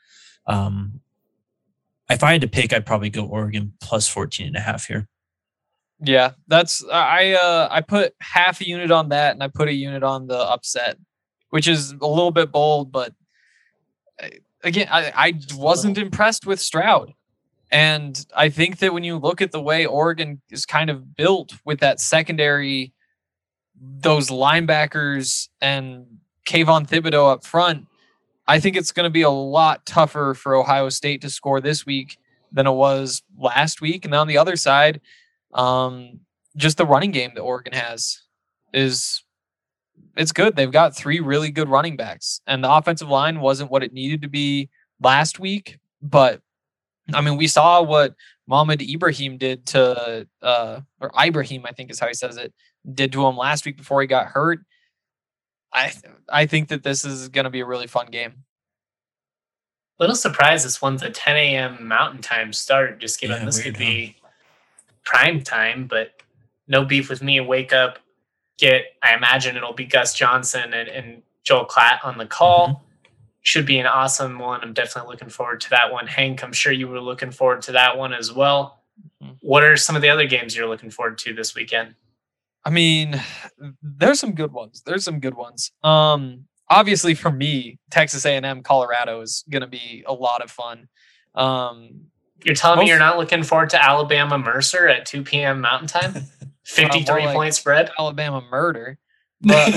Um, if I had to pick, I'd probably go Oregon plus fourteen and a half here. Yeah, that's I uh I put half a unit on that, and I put a unit on the upset, which is a little bit bold, but again, I, I wasn't impressed with Stroud. And I think that when you look at the way Oregon is kind of built with that secondary, those linebackers and Kayvon Thibodeau up front, I think it's going to be a lot tougher for Ohio State to score this week than it was last week. And on the other side, um, just the running game that Oregon has is it's good. They've got three really good running backs, and the offensive line wasn't what it needed to be last week, but I mean, we saw what Mohamed Ibrahim did to, uh, or Ibrahim, I think is how he says it, did to him last week before he got hurt. I th- I think that this is going to be a really fun game. Little surprised this one's a ten a.m. Mountain Time start, just given yeah, this weird, could be huh? prime time, but no beef with me. Wake up, get, I imagine it'll be Gus Johnson and, and Joel Klatt on the call. Mm-hmm. Should be an awesome one. I'm definitely looking forward to that one. Hank, I'm sure you were looking forward to that one as well. Mm-hmm. What are some of the other games you're looking forward to this weekend? I mean, there's some good ones. There's some good ones. Um, obviously, for me, Texas A and M, Colorado is going to be a lot of fun. Um, you're telling most, me you're not looking forward to Alabama Mercer at two p.m. Mountain Time? fifty-three well, like point spread? Alabama murder. But,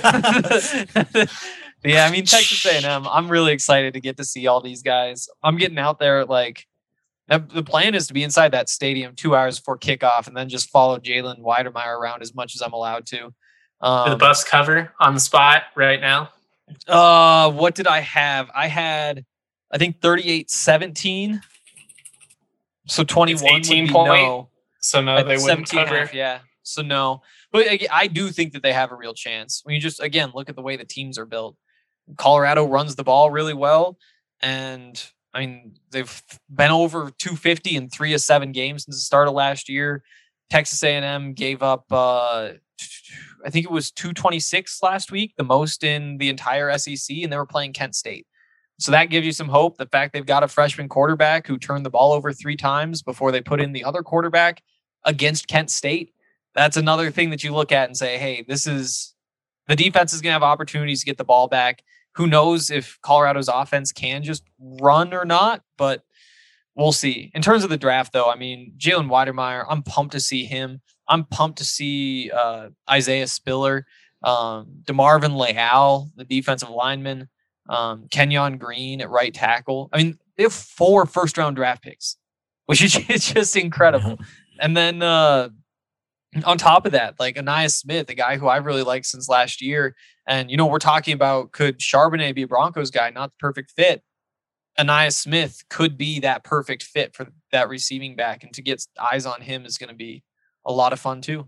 uh, yeah, I mean, Texas A and M, I'm really excited to get to see all these guys. I'm getting out there, like, the plan is to be inside that stadium two hours before kickoff and then just follow Jalen Weidemeyer around as much as I'm allowed to. Um, the bus cover on the spot right now? Uh, what did I have? I had, I think, thirty-eight seventeen. So twenty-one it's eighteen point. No. So no, they wouldn't cover. Half, yeah, so no. But I do think that they have a real chance. When you just, again, look at the way the teams are built. Colorado runs the ball really well, and I mean they've been over two fifty in three of seven games since the start of last year. Texas A and M gave up, uh, I think it was two twenty-six last week, the most in the entire S E C, and they were playing Kent State. So that gives you some hope. The fact they've got a freshman quarterback who turned the ball over three times before they put in the other quarterback against Kent State. That's another thing that you look at and say, hey, this is the defense is going to have opportunities to get the ball back. Who knows if Colorado's offense can just run or not, but we'll see. In terms of the draft, though, I mean, Jalen Weidemeyer, I'm pumped to see him. I'm pumped to see uh, Isaiah Spiller, um, DeMarvin Leal, the defensive lineman, um, Kenyon Green at right tackle. I mean, they have four first-round draft picks, which is just incredible. And then uh, on top of that, like Ainias Smith, a guy who I've really liked since last year. And, you know, we're talking about, could Charbonnet be a Broncos guy? Not the perfect fit. Ainias Smith could be that perfect fit for that receiving back. And to get eyes on him is going to be a lot of fun too.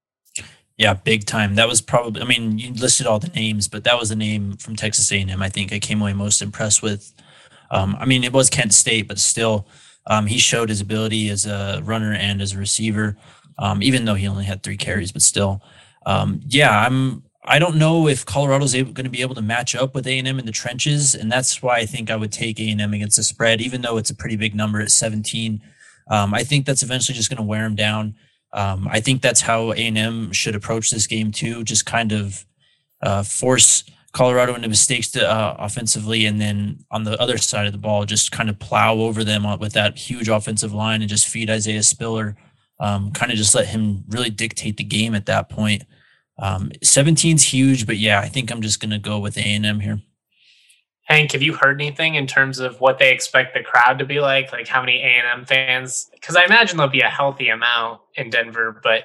Yeah, big time. That was probably, I mean, you listed all the names, but that was the name from Texas A and M I think I came away most impressed with. Um, I mean, it was Kent State, but still, um, he showed his ability as a runner and as a receiver, um, even though he only had three carries, but still. Um, yeah, I'm, I don't know if Colorado's able, going to be able to match up with A and M in the trenches, and that's why I think I would take A and M against the spread, even though it's a pretty big number at seventeen. Um, I think that's eventually just going to wear them down. Um, I think that's how A and M should approach this game too, just kind of uh, force Colorado into mistakes to, uh, offensively, and then on the other side of the ball, just kind of plow over them with that huge offensive line and just feed Isaiah Spiller, um, kind of just let him really dictate the game at that point. Um, seventeen's huge, but yeah, I think I'm just going to go with A and M here. Hank, have you heard anything in terms of what they expect the crowd to be like? Like how many A and M fans? Because I imagine there'll be a healthy amount in Denver, but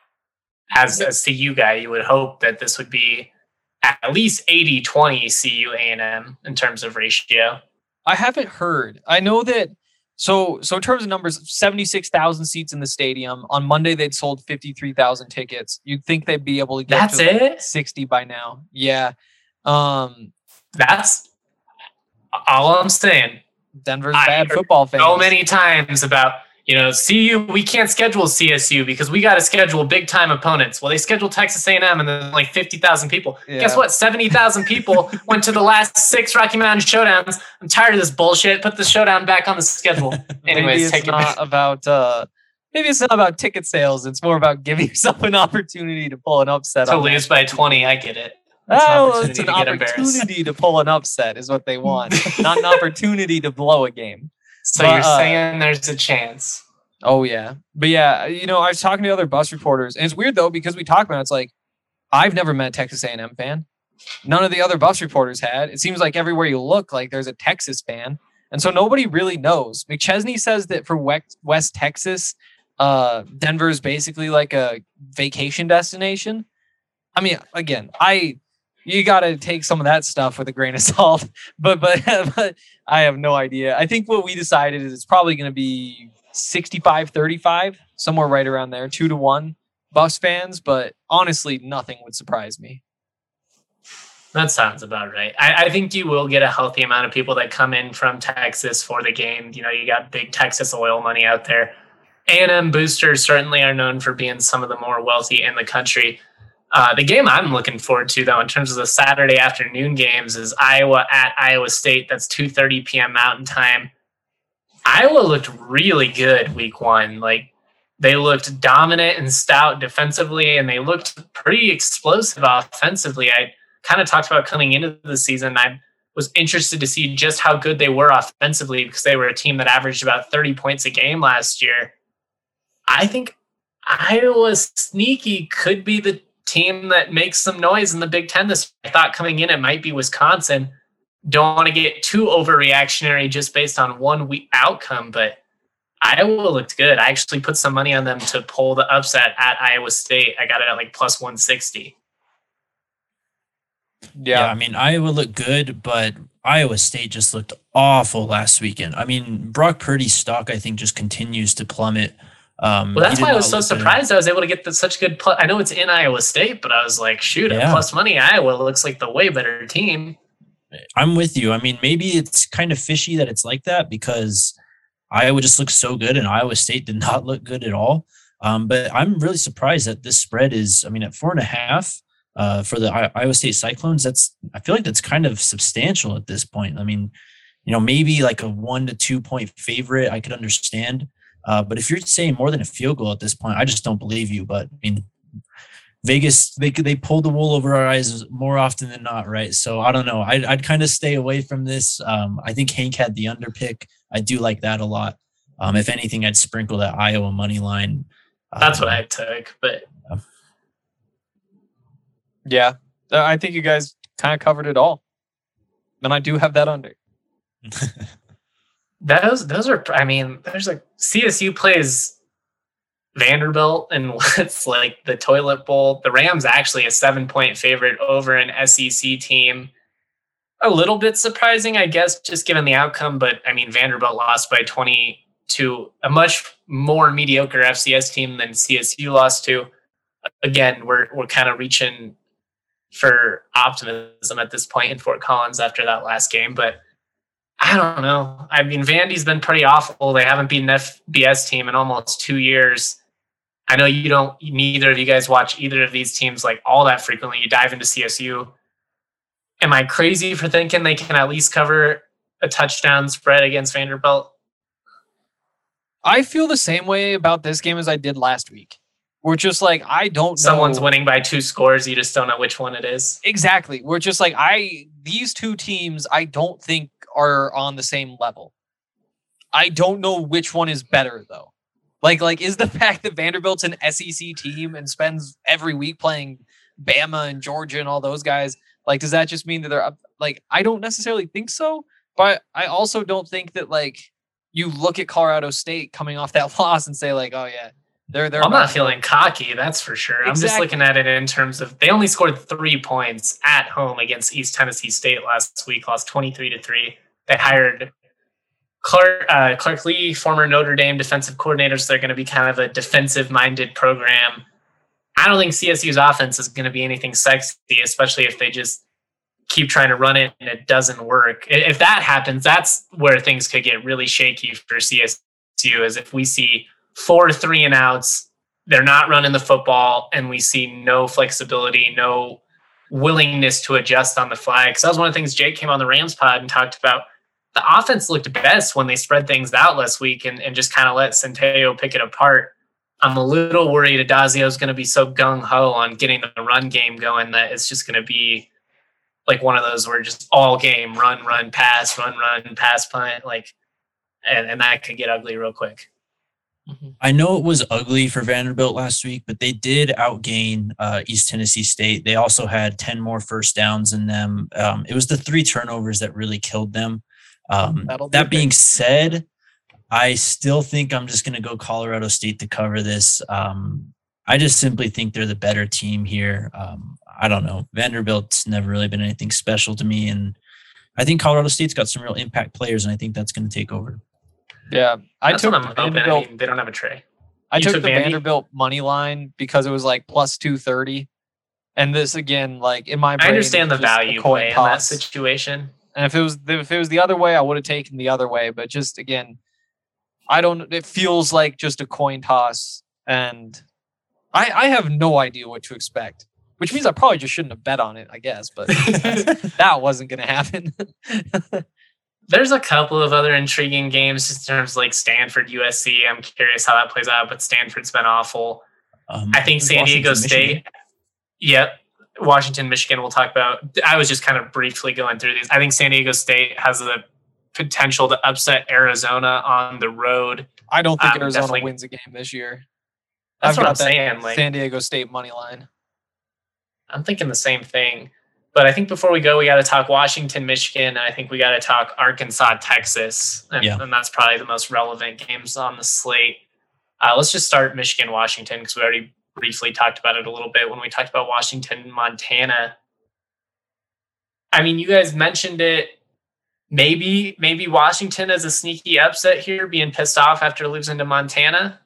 as a C U guy, you would hope that this would be at least eighty twenty C U A and M in terms of ratio. I haven't heard. I know that. So, so in terms of numbers, seventy-six thousand seats in the stadium. On Monday, they'd sold fifty-three thousand tickets. You'd think they'd be able to get That's to it? sixty by now. Yeah. Um, That's all I'm saying. Denver's bad football fans. So many times about, you know, C U, we can't schedule C S U because we got to schedule big time opponents. Well, they scheduled Texas A and M and then like fifty thousand people. Yeah. Guess what? seventy thousand people went to the last six Rocky Mountain Showdowns. I'm tired of this bullshit. Put the showdown back on the schedule. Anyways, maybe it's take not it about, uh, maybe it's not about ticket sales. It's more about giving yourself an opportunity to pull an upset. To lose by twenty. I get it. It's oh, an it's an opportunity to pull an upset is what they want, not an opportunity to blow a game. So but, you're uh, saying there's a chance. Oh, yeah. But yeah, you know, I was talking to other bus reporters, and it's weird, though, because we talk about it, it's like, I've never met a Texas A and M fan. None of the other bus reporters had. It seems like everywhere you look, like there's a Texas fan. And so nobody really knows. McChesney says that for West, West Texas, uh, Denver is basically like a vacation destination. I mean, again, I... You got to take some of that stuff with a grain of salt, but, but but I have no idea. I think what we decided is it's probably going to be sixty-five thirty-five, somewhere right around there, two to one Buffs fans. But honestly, nothing would surprise me. That sounds about right. I, I think you will get a healthy amount of people that come in from Texas for the game. You know, you got big Texas oil money out there. A and M boosters certainly are known for being some of the more wealthy in the country. Uh, the game I'm looking forward to, though, in terms of the Saturday afternoon games is Iowa at Iowa State. That's two thirty p.m. Mountain Time. Iowa looked really good week one. Like, they looked dominant and stout defensively, and they looked pretty explosive offensively. I kind of talked about coming into the season. I was interested to see just how good they were offensively because they were a team that averaged about thirty points a game last year. I think Iowa sneaky could be the team that makes some noise in the Big Ten this year. I thought coming in it might be Wisconsin. Don't want to get too overreactionary just based on one week outcome, but Iowa looked good. I actually put some money on them to pull the upset at Iowa State. I got it at like plus one sixty. Yeah. yeah, I mean, Iowa looked good, but Iowa State just looked awful last weekend. I mean, Brock Purdy's stock, I think, just continues to plummet. Um, well, that's why I was so surprised. Good. I was able to get the, such good. Plus, I know it's in Iowa State, but I was like, shoot, yeah. At plus money, Iowa looks like the way better team. I'm with you. I mean, maybe it's kind of fishy that it's like that because Iowa just looks so good and Iowa State did not look good at all. Um, but I'm really surprised that this spread is, I mean, at four and a half uh, for the I- Iowa State Cyclones. That's, I feel like that's kind of substantial at this point. I mean, you know, maybe like a one to two point favorite, I could understand. Uh, but if you're saying more than a field goal at this point, I just don't believe you. But I mean, Vegas, they they pull the wool over our eyes more often than not, right? So I don't know. I'd, I'd kind of stay away from this. Um, I think Hank had the under pick. I do like that a lot. Um, if anything, I'd sprinkle that Iowa money line. That's um, what I took. But uh, yeah, I think you guys kind of covered it all. And I do have that under. Those those are, I mean, there's like C S U plays Vanderbilt and what's like the toilet bowl. The Rams actually a seven point favorite over an S E C team. A little bit surprising, I guess, just given the outcome. But I mean, Vanderbilt lost by twenty to a much more mediocre F C S team than C S U lost to. Again, we're we're kind of reaching for optimism at this point in Fort Collins after that last game, but I don't know. I mean, Vandy's been pretty awful. They haven't beaten an F B S team in almost two years. I know you don't, neither of you guys watch either of these teams like all that frequently. You dive into C S U. Am I crazy for thinking they can at least cover a touchdown spread against Vanderbilt? I feel the same way about this game as I did last week. We're just like, I don't know. Someone's winning by two scores. You just don't know which one it is. Exactly. We're just like, I, these two teams, I don't think are on the same level. I don't know which one is better though. Like, like is the fact that Vanderbilt's an S E C team and spends every week playing Bama and Georgia and all those guys, like, does that just mean that they're up? Like, I don't necessarily think so, but I also don't think that like you look at Colorado State coming off that loss and say like, oh yeah, They're, they're I'm not feeling cocky, that's for sure. Exactly. I'm just looking at it in terms of they only scored three points at home against East Tennessee State last week, lost twenty-three to three. They hired Clark, uh, Clark Lee, former Notre Dame defensive coordinator, so they're going to be kind of a defensive-minded program. I don't think C S U's offense is going to be anything sexy, especially if they just keep trying to run it and it doesn't work. If that happens, that's where things could get really shaky for C S U is if we see four three and outs, they're not running the football, and we see no flexibility, no willingness to adjust on the fly. Because that was one of the things Jake came on the Rams pod and talked about. The offense looked best when they spread things out last week and, and just kind of let Centeio pick it apart. I'm a little worried Adazio is going to be so gung-ho on getting the run game going that it's just going to be like one of those where just all game, run, run, pass, run, run, pass, punt, like, and, and that could get ugly real quick. Mm-hmm. I know it was ugly for Vanderbilt last week, but they did outgain uh, East Tennessee State. They also had ten more first downs in them. Um, it was the three turnovers that really killed them. Um, that being said, I still think I'm just going to go Colorado State to cover this. Um, I just simply think they're the better team here. Um, I don't know. Vanderbilt's never really been anything special to me, and I think Colorado State's got some real impact players, and I think that's going to take over. Yeah, I That's took what I'm hoping. Vanderbilt. I mean, they don't have a tray. I You took, took the Vandy? Vanderbilt money line because it was like plus two thirty, and this again, like in my brain, I understand the it's just a value coin play in that toss. situation. And if it was if it was the other way, I would have taken the other way. But just again, I don't. It feels like just a coin toss, and I I have no idea what to expect. Which means I probably just shouldn't have bet on it, I guess. But that wasn't going to happen. There's a couple of other intriguing games just in terms of like Stanford, U S C. I'm curious how that plays out, but Stanford's been awful. Um, I think San Diego Washington, State. Michigan. Yep. Washington, Michigan, we'll talk about. I was just kind of briefly going through these. I think San Diego State has the potential to upset Arizona on the road. I don't think Um, Arizona definitely- wins a game this year. That's I've what got I'm that saying. Like, San Diego State money line. I'm thinking the same thing. But I think before we go, we got to talk Washington, Michigan. And I think we got to talk Arkansas, Texas. And, Yeah. and that's probably the most relevant games on the slate. Uh, let's just start Michigan, Washington, because we already briefly talked about it a little bit when we talked about Washington, Montana. I mean, you guys mentioned it. Maybe, maybe Washington as a sneaky upset here, being pissed off after losing to Montana.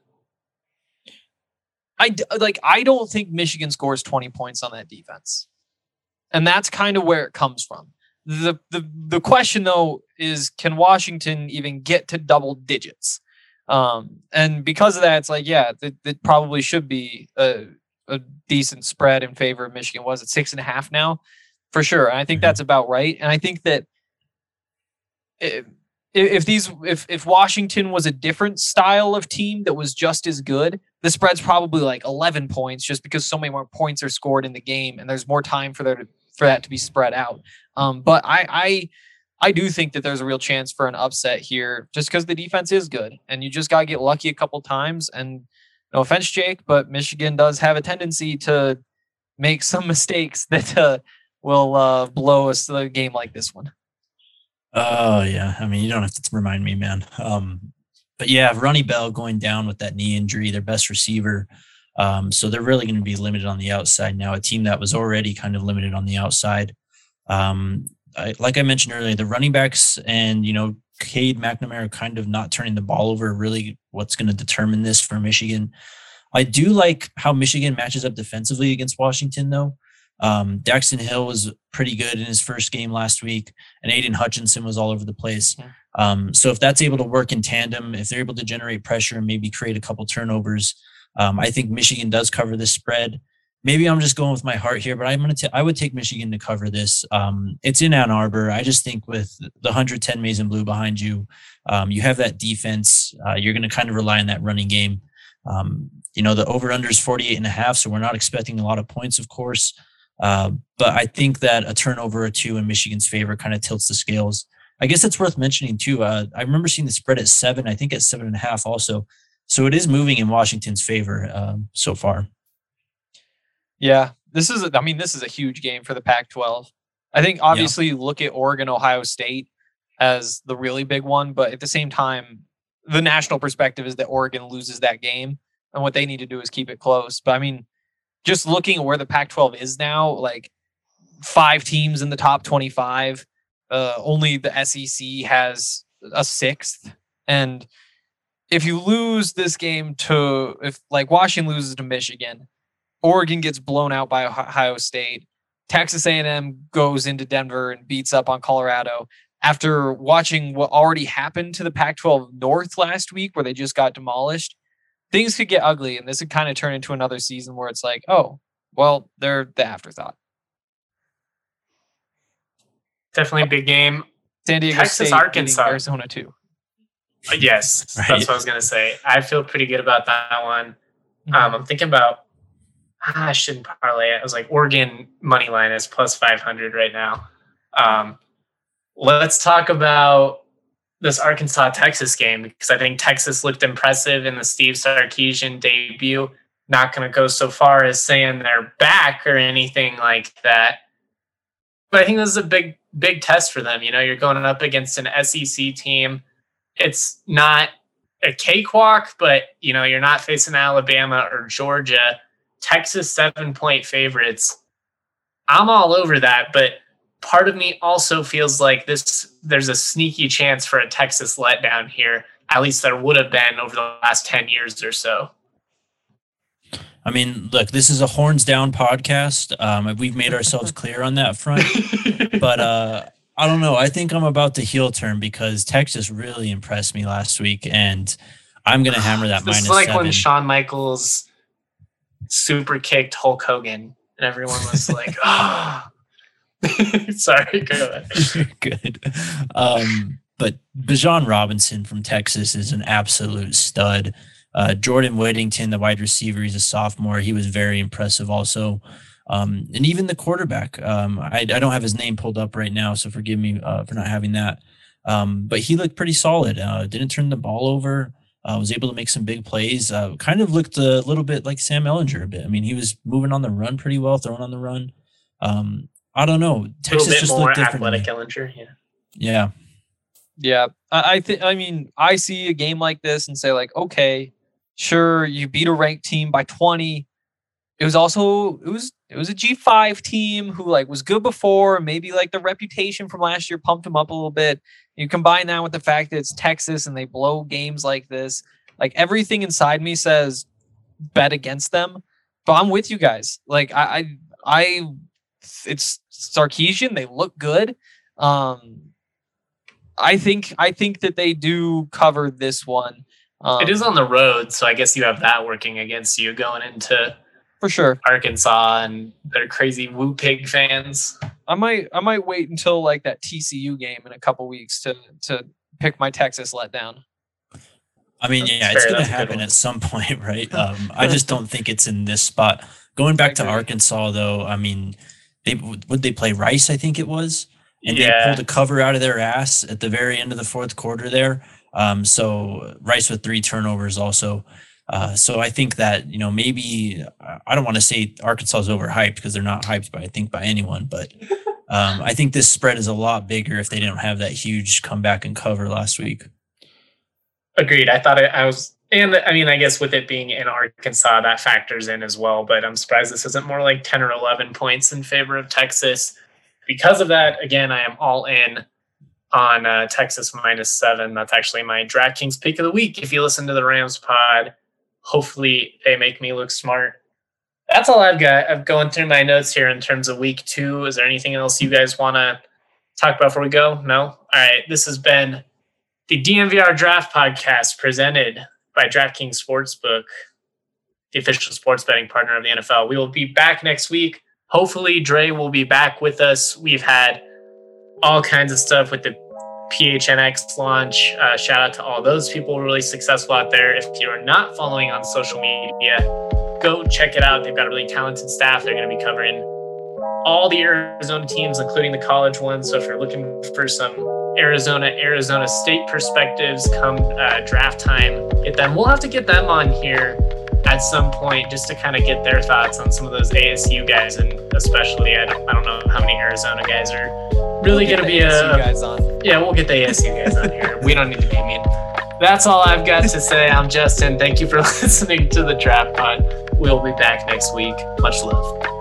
I d- like. I don't think Michigan scores twenty points on that defense, and that's kind of where it comes from. the the The question though is, can Washington even get to double digits? Um, and because of that, it's like, yeah, it, it probably should be a, a decent spread in favor of Michigan. Was it six and a half now? For sure, and I think Mhm. that's about right. And I think that if, if these if if Washington was a different style of team that was just as good, the spread's probably like eleven points, just because so many more points are scored in the game, and there's more time for there to, for that to be spread out. Um, but I, I I do think that there's a real chance for an upset here, just because the defense is good, and you just gotta get lucky a couple times. And no offense, Jake, but Michigan does have a tendency to make some mistakes that uh, will uh, blow us to a game like this one. Oh yeah, I mean you don't have to remind me, man. Um, but yeah, Ronnie Bell going down with that knee injury, their best receiver. Um, so they're really going to be limited on the outside now. A team that was already kind of limited on the outside. Um, I, like I mentioned earlier, the running backs and you know Cade McNamara kind of not turning the ball over. Really, what's going to determine this for Michigan? I do like how Michigan matches up defensively against Washington, though. Um, Daxton Hill was pretty good in his first game last week, and Aiden Hutchinson was all over the place. Um, so if that's able to work in tandem, if they're able to generate pressure and maybe create a couple turnovers, um, I think Michigan does cover this spread. Maybe I'm just going with my heart here, but I'm gonna. T- I would take Michigan to cover this. Um, it's in Ann Arbor. I just think with the one hundred ten Maize and Blue behind you, um, you have that defense. Uh, you're going to kind of rely on that running game. Um, you know the over under is forty-eight and a half, so we're not expecting a lot of points, of course. Uh, but I think that a turnover or two in Michigan's favor kind of tilts the scales. I guess it's worth mentioning too. Uh, I remember seeing the spread at seven. I think at seven and a half also. So it is moving in Washington's favor um, so far. Yeah, this is. A, I mean, this is a huge game for the Pac twelve. I think obviously you look at Oregon, Ohio State as the really big one, but at the same time, the national perspective is that Oregon loses that game, and what they need to do is keep it close. But I mean, just looking at where the Pac twelve is now, like five teams in the top twenty-five. Uh, only the S E C has a sixth. And if you lose this game to, if like Washington loses to Michigan, Oregon gets blown out by Ohio State, Texas A and M goes into Denver and beats up on Colorado, after watching what already happened to the Pac twelve North last week, where they just got demolished, things could get ugly, and this could kind of turn into another season where it's like, oh, well, they're the afterthought. Definitely a big game. San Diego Texas, State, Arkansas, Arizona too. Uh, yes, Right. That's what I was gonna say. I feel pretty good about that one. Mm-hmm. Um, I'm thinking about. Ah, I shouldn't parlay it. I was like Oregon money line is plus five hundred right now. Um, let's talk about this Arkansas Texas game, because I think Texas looked impressive in the Steve Sarkisian debut. Not going to go so far as saying they're back or anything like that, but I think this is a big, big test for them. You know, you're going up against an S E C team. It's not a cakewalk, but you know, you're not facing Alabama or Georgia. Texas seven point favorites. I'm all over that, but part of me also feels like this. There's a sneaky chance for a Texas letdown here. At least there would have been over the last ten years or so. I mean, look, this is a horns down podcast. Um, we've made ourselves clear on that front, but uh, I don't know. I think I'm about to heel turn because Texas really impressed me last week, and I'm going to hammer that this minus is like seven. when Shawn Michaels super kicked Hulk Hogan, and everyone was like, "Oh." Sorry, go ahead. Good. Um, but Bijan Robinson from Texas is an absolute stud. Uh, Jordan Whittington, the wide receiver, he's a sophomore. He was very impressive also. Um, and even the quarterback, um, I, I don't have his name pulled up right now, so forgive me uh, for not having that. Um, but he looked pretty solid. Uh, didn't turn the ball over. Uh, was able to make some big plays. Uh, kind of looked a little bit like Sam Ehlinger a bit. I mean, he was moving on the run pretty well, throwing on the run. Um, I don't know. Texas a little bit just more looked different. athletic Ehlinger, yeah. Yeah. Yeah, I, I think. I mean, I see a game like this and say, like, okay, sure, you beat a ranked team by twenty. It was also it was it was a G five team who like was good before. Maybe like the reputation from last year pumped them up a little bit. You combine that with the fact that it's Texas and they blow games like this. Like everything inside me says bet against them. But I'm with you guys. Like I I, I it's Sarkisian. They look good. Um, I think I think that they do cover this one. Um, it is on the road, so I guess you have that working against you going into for sure Arkansas and their crazy Woo Pig fans. I might I might wait until like that T C U game in a couple weeks to to pick my Texas letdown. I mean, That's yeah, fair. it's going to That's a good happen one. at some point, right? Um, I just don't think it's in this spot. Going back to agree. Arkansas, though, I mean, they would they play Rice? I think it was, and Yeah. they pulled a cover out of their ass at the very end of the fourth quarter there. Um, so Rice with three turnovers also. Uh, so I think that, you know, maybe I don't want to say Arkansas is overhyped because they're not hyped by I think by anyone, but um, I think this spread is a lot bigger if they didn't have that huge comeback and cover last week. Agreed. I thought it, I was, and I mean, I guess with it being in Arkansas, that factors in as well. But I'm surprised this isn't more like ten or eleven points in favor of Texas. Because of that, again, I am all in on uh, Texas minus seven. That's actually my DraftKings pick of the week. If you listen to the Rams pod, hopefully they make me look smart. That's all I've got. I'm going through my notes here in terms of week two. Is there anything else you guys want to talk about before we go? No? All right. This has been the D N V R Draft Podcast presented by DraftKings Sportsbook, the official sports betting partner of the N F L. We will be back next week. Hopefully, Dre will be back with us. We've had all kinds of stuff with the P H N X launch. Uh, shout out to all those people really successful out there. If you're not following on social media, go check it out. They've got a really talented staff. They're going to be covering all the Arizona teams, including the college ones. So if you're looking for some Arizona, Arizona State perspectives come uh, draft time, get them. We'll have to get them on here at some point just to kind of get their thoughts on some of those A S U guys, and especially I don't, I don't know how many Arizona guys are really We'll going to be get the A S U a guys on. yeah. We'll get the A S U guys on here. We don't need to be mean. That's all I've got to say. I'm Justin. Thank you for listening to the Draft Pod. We'll be back next week. Much love.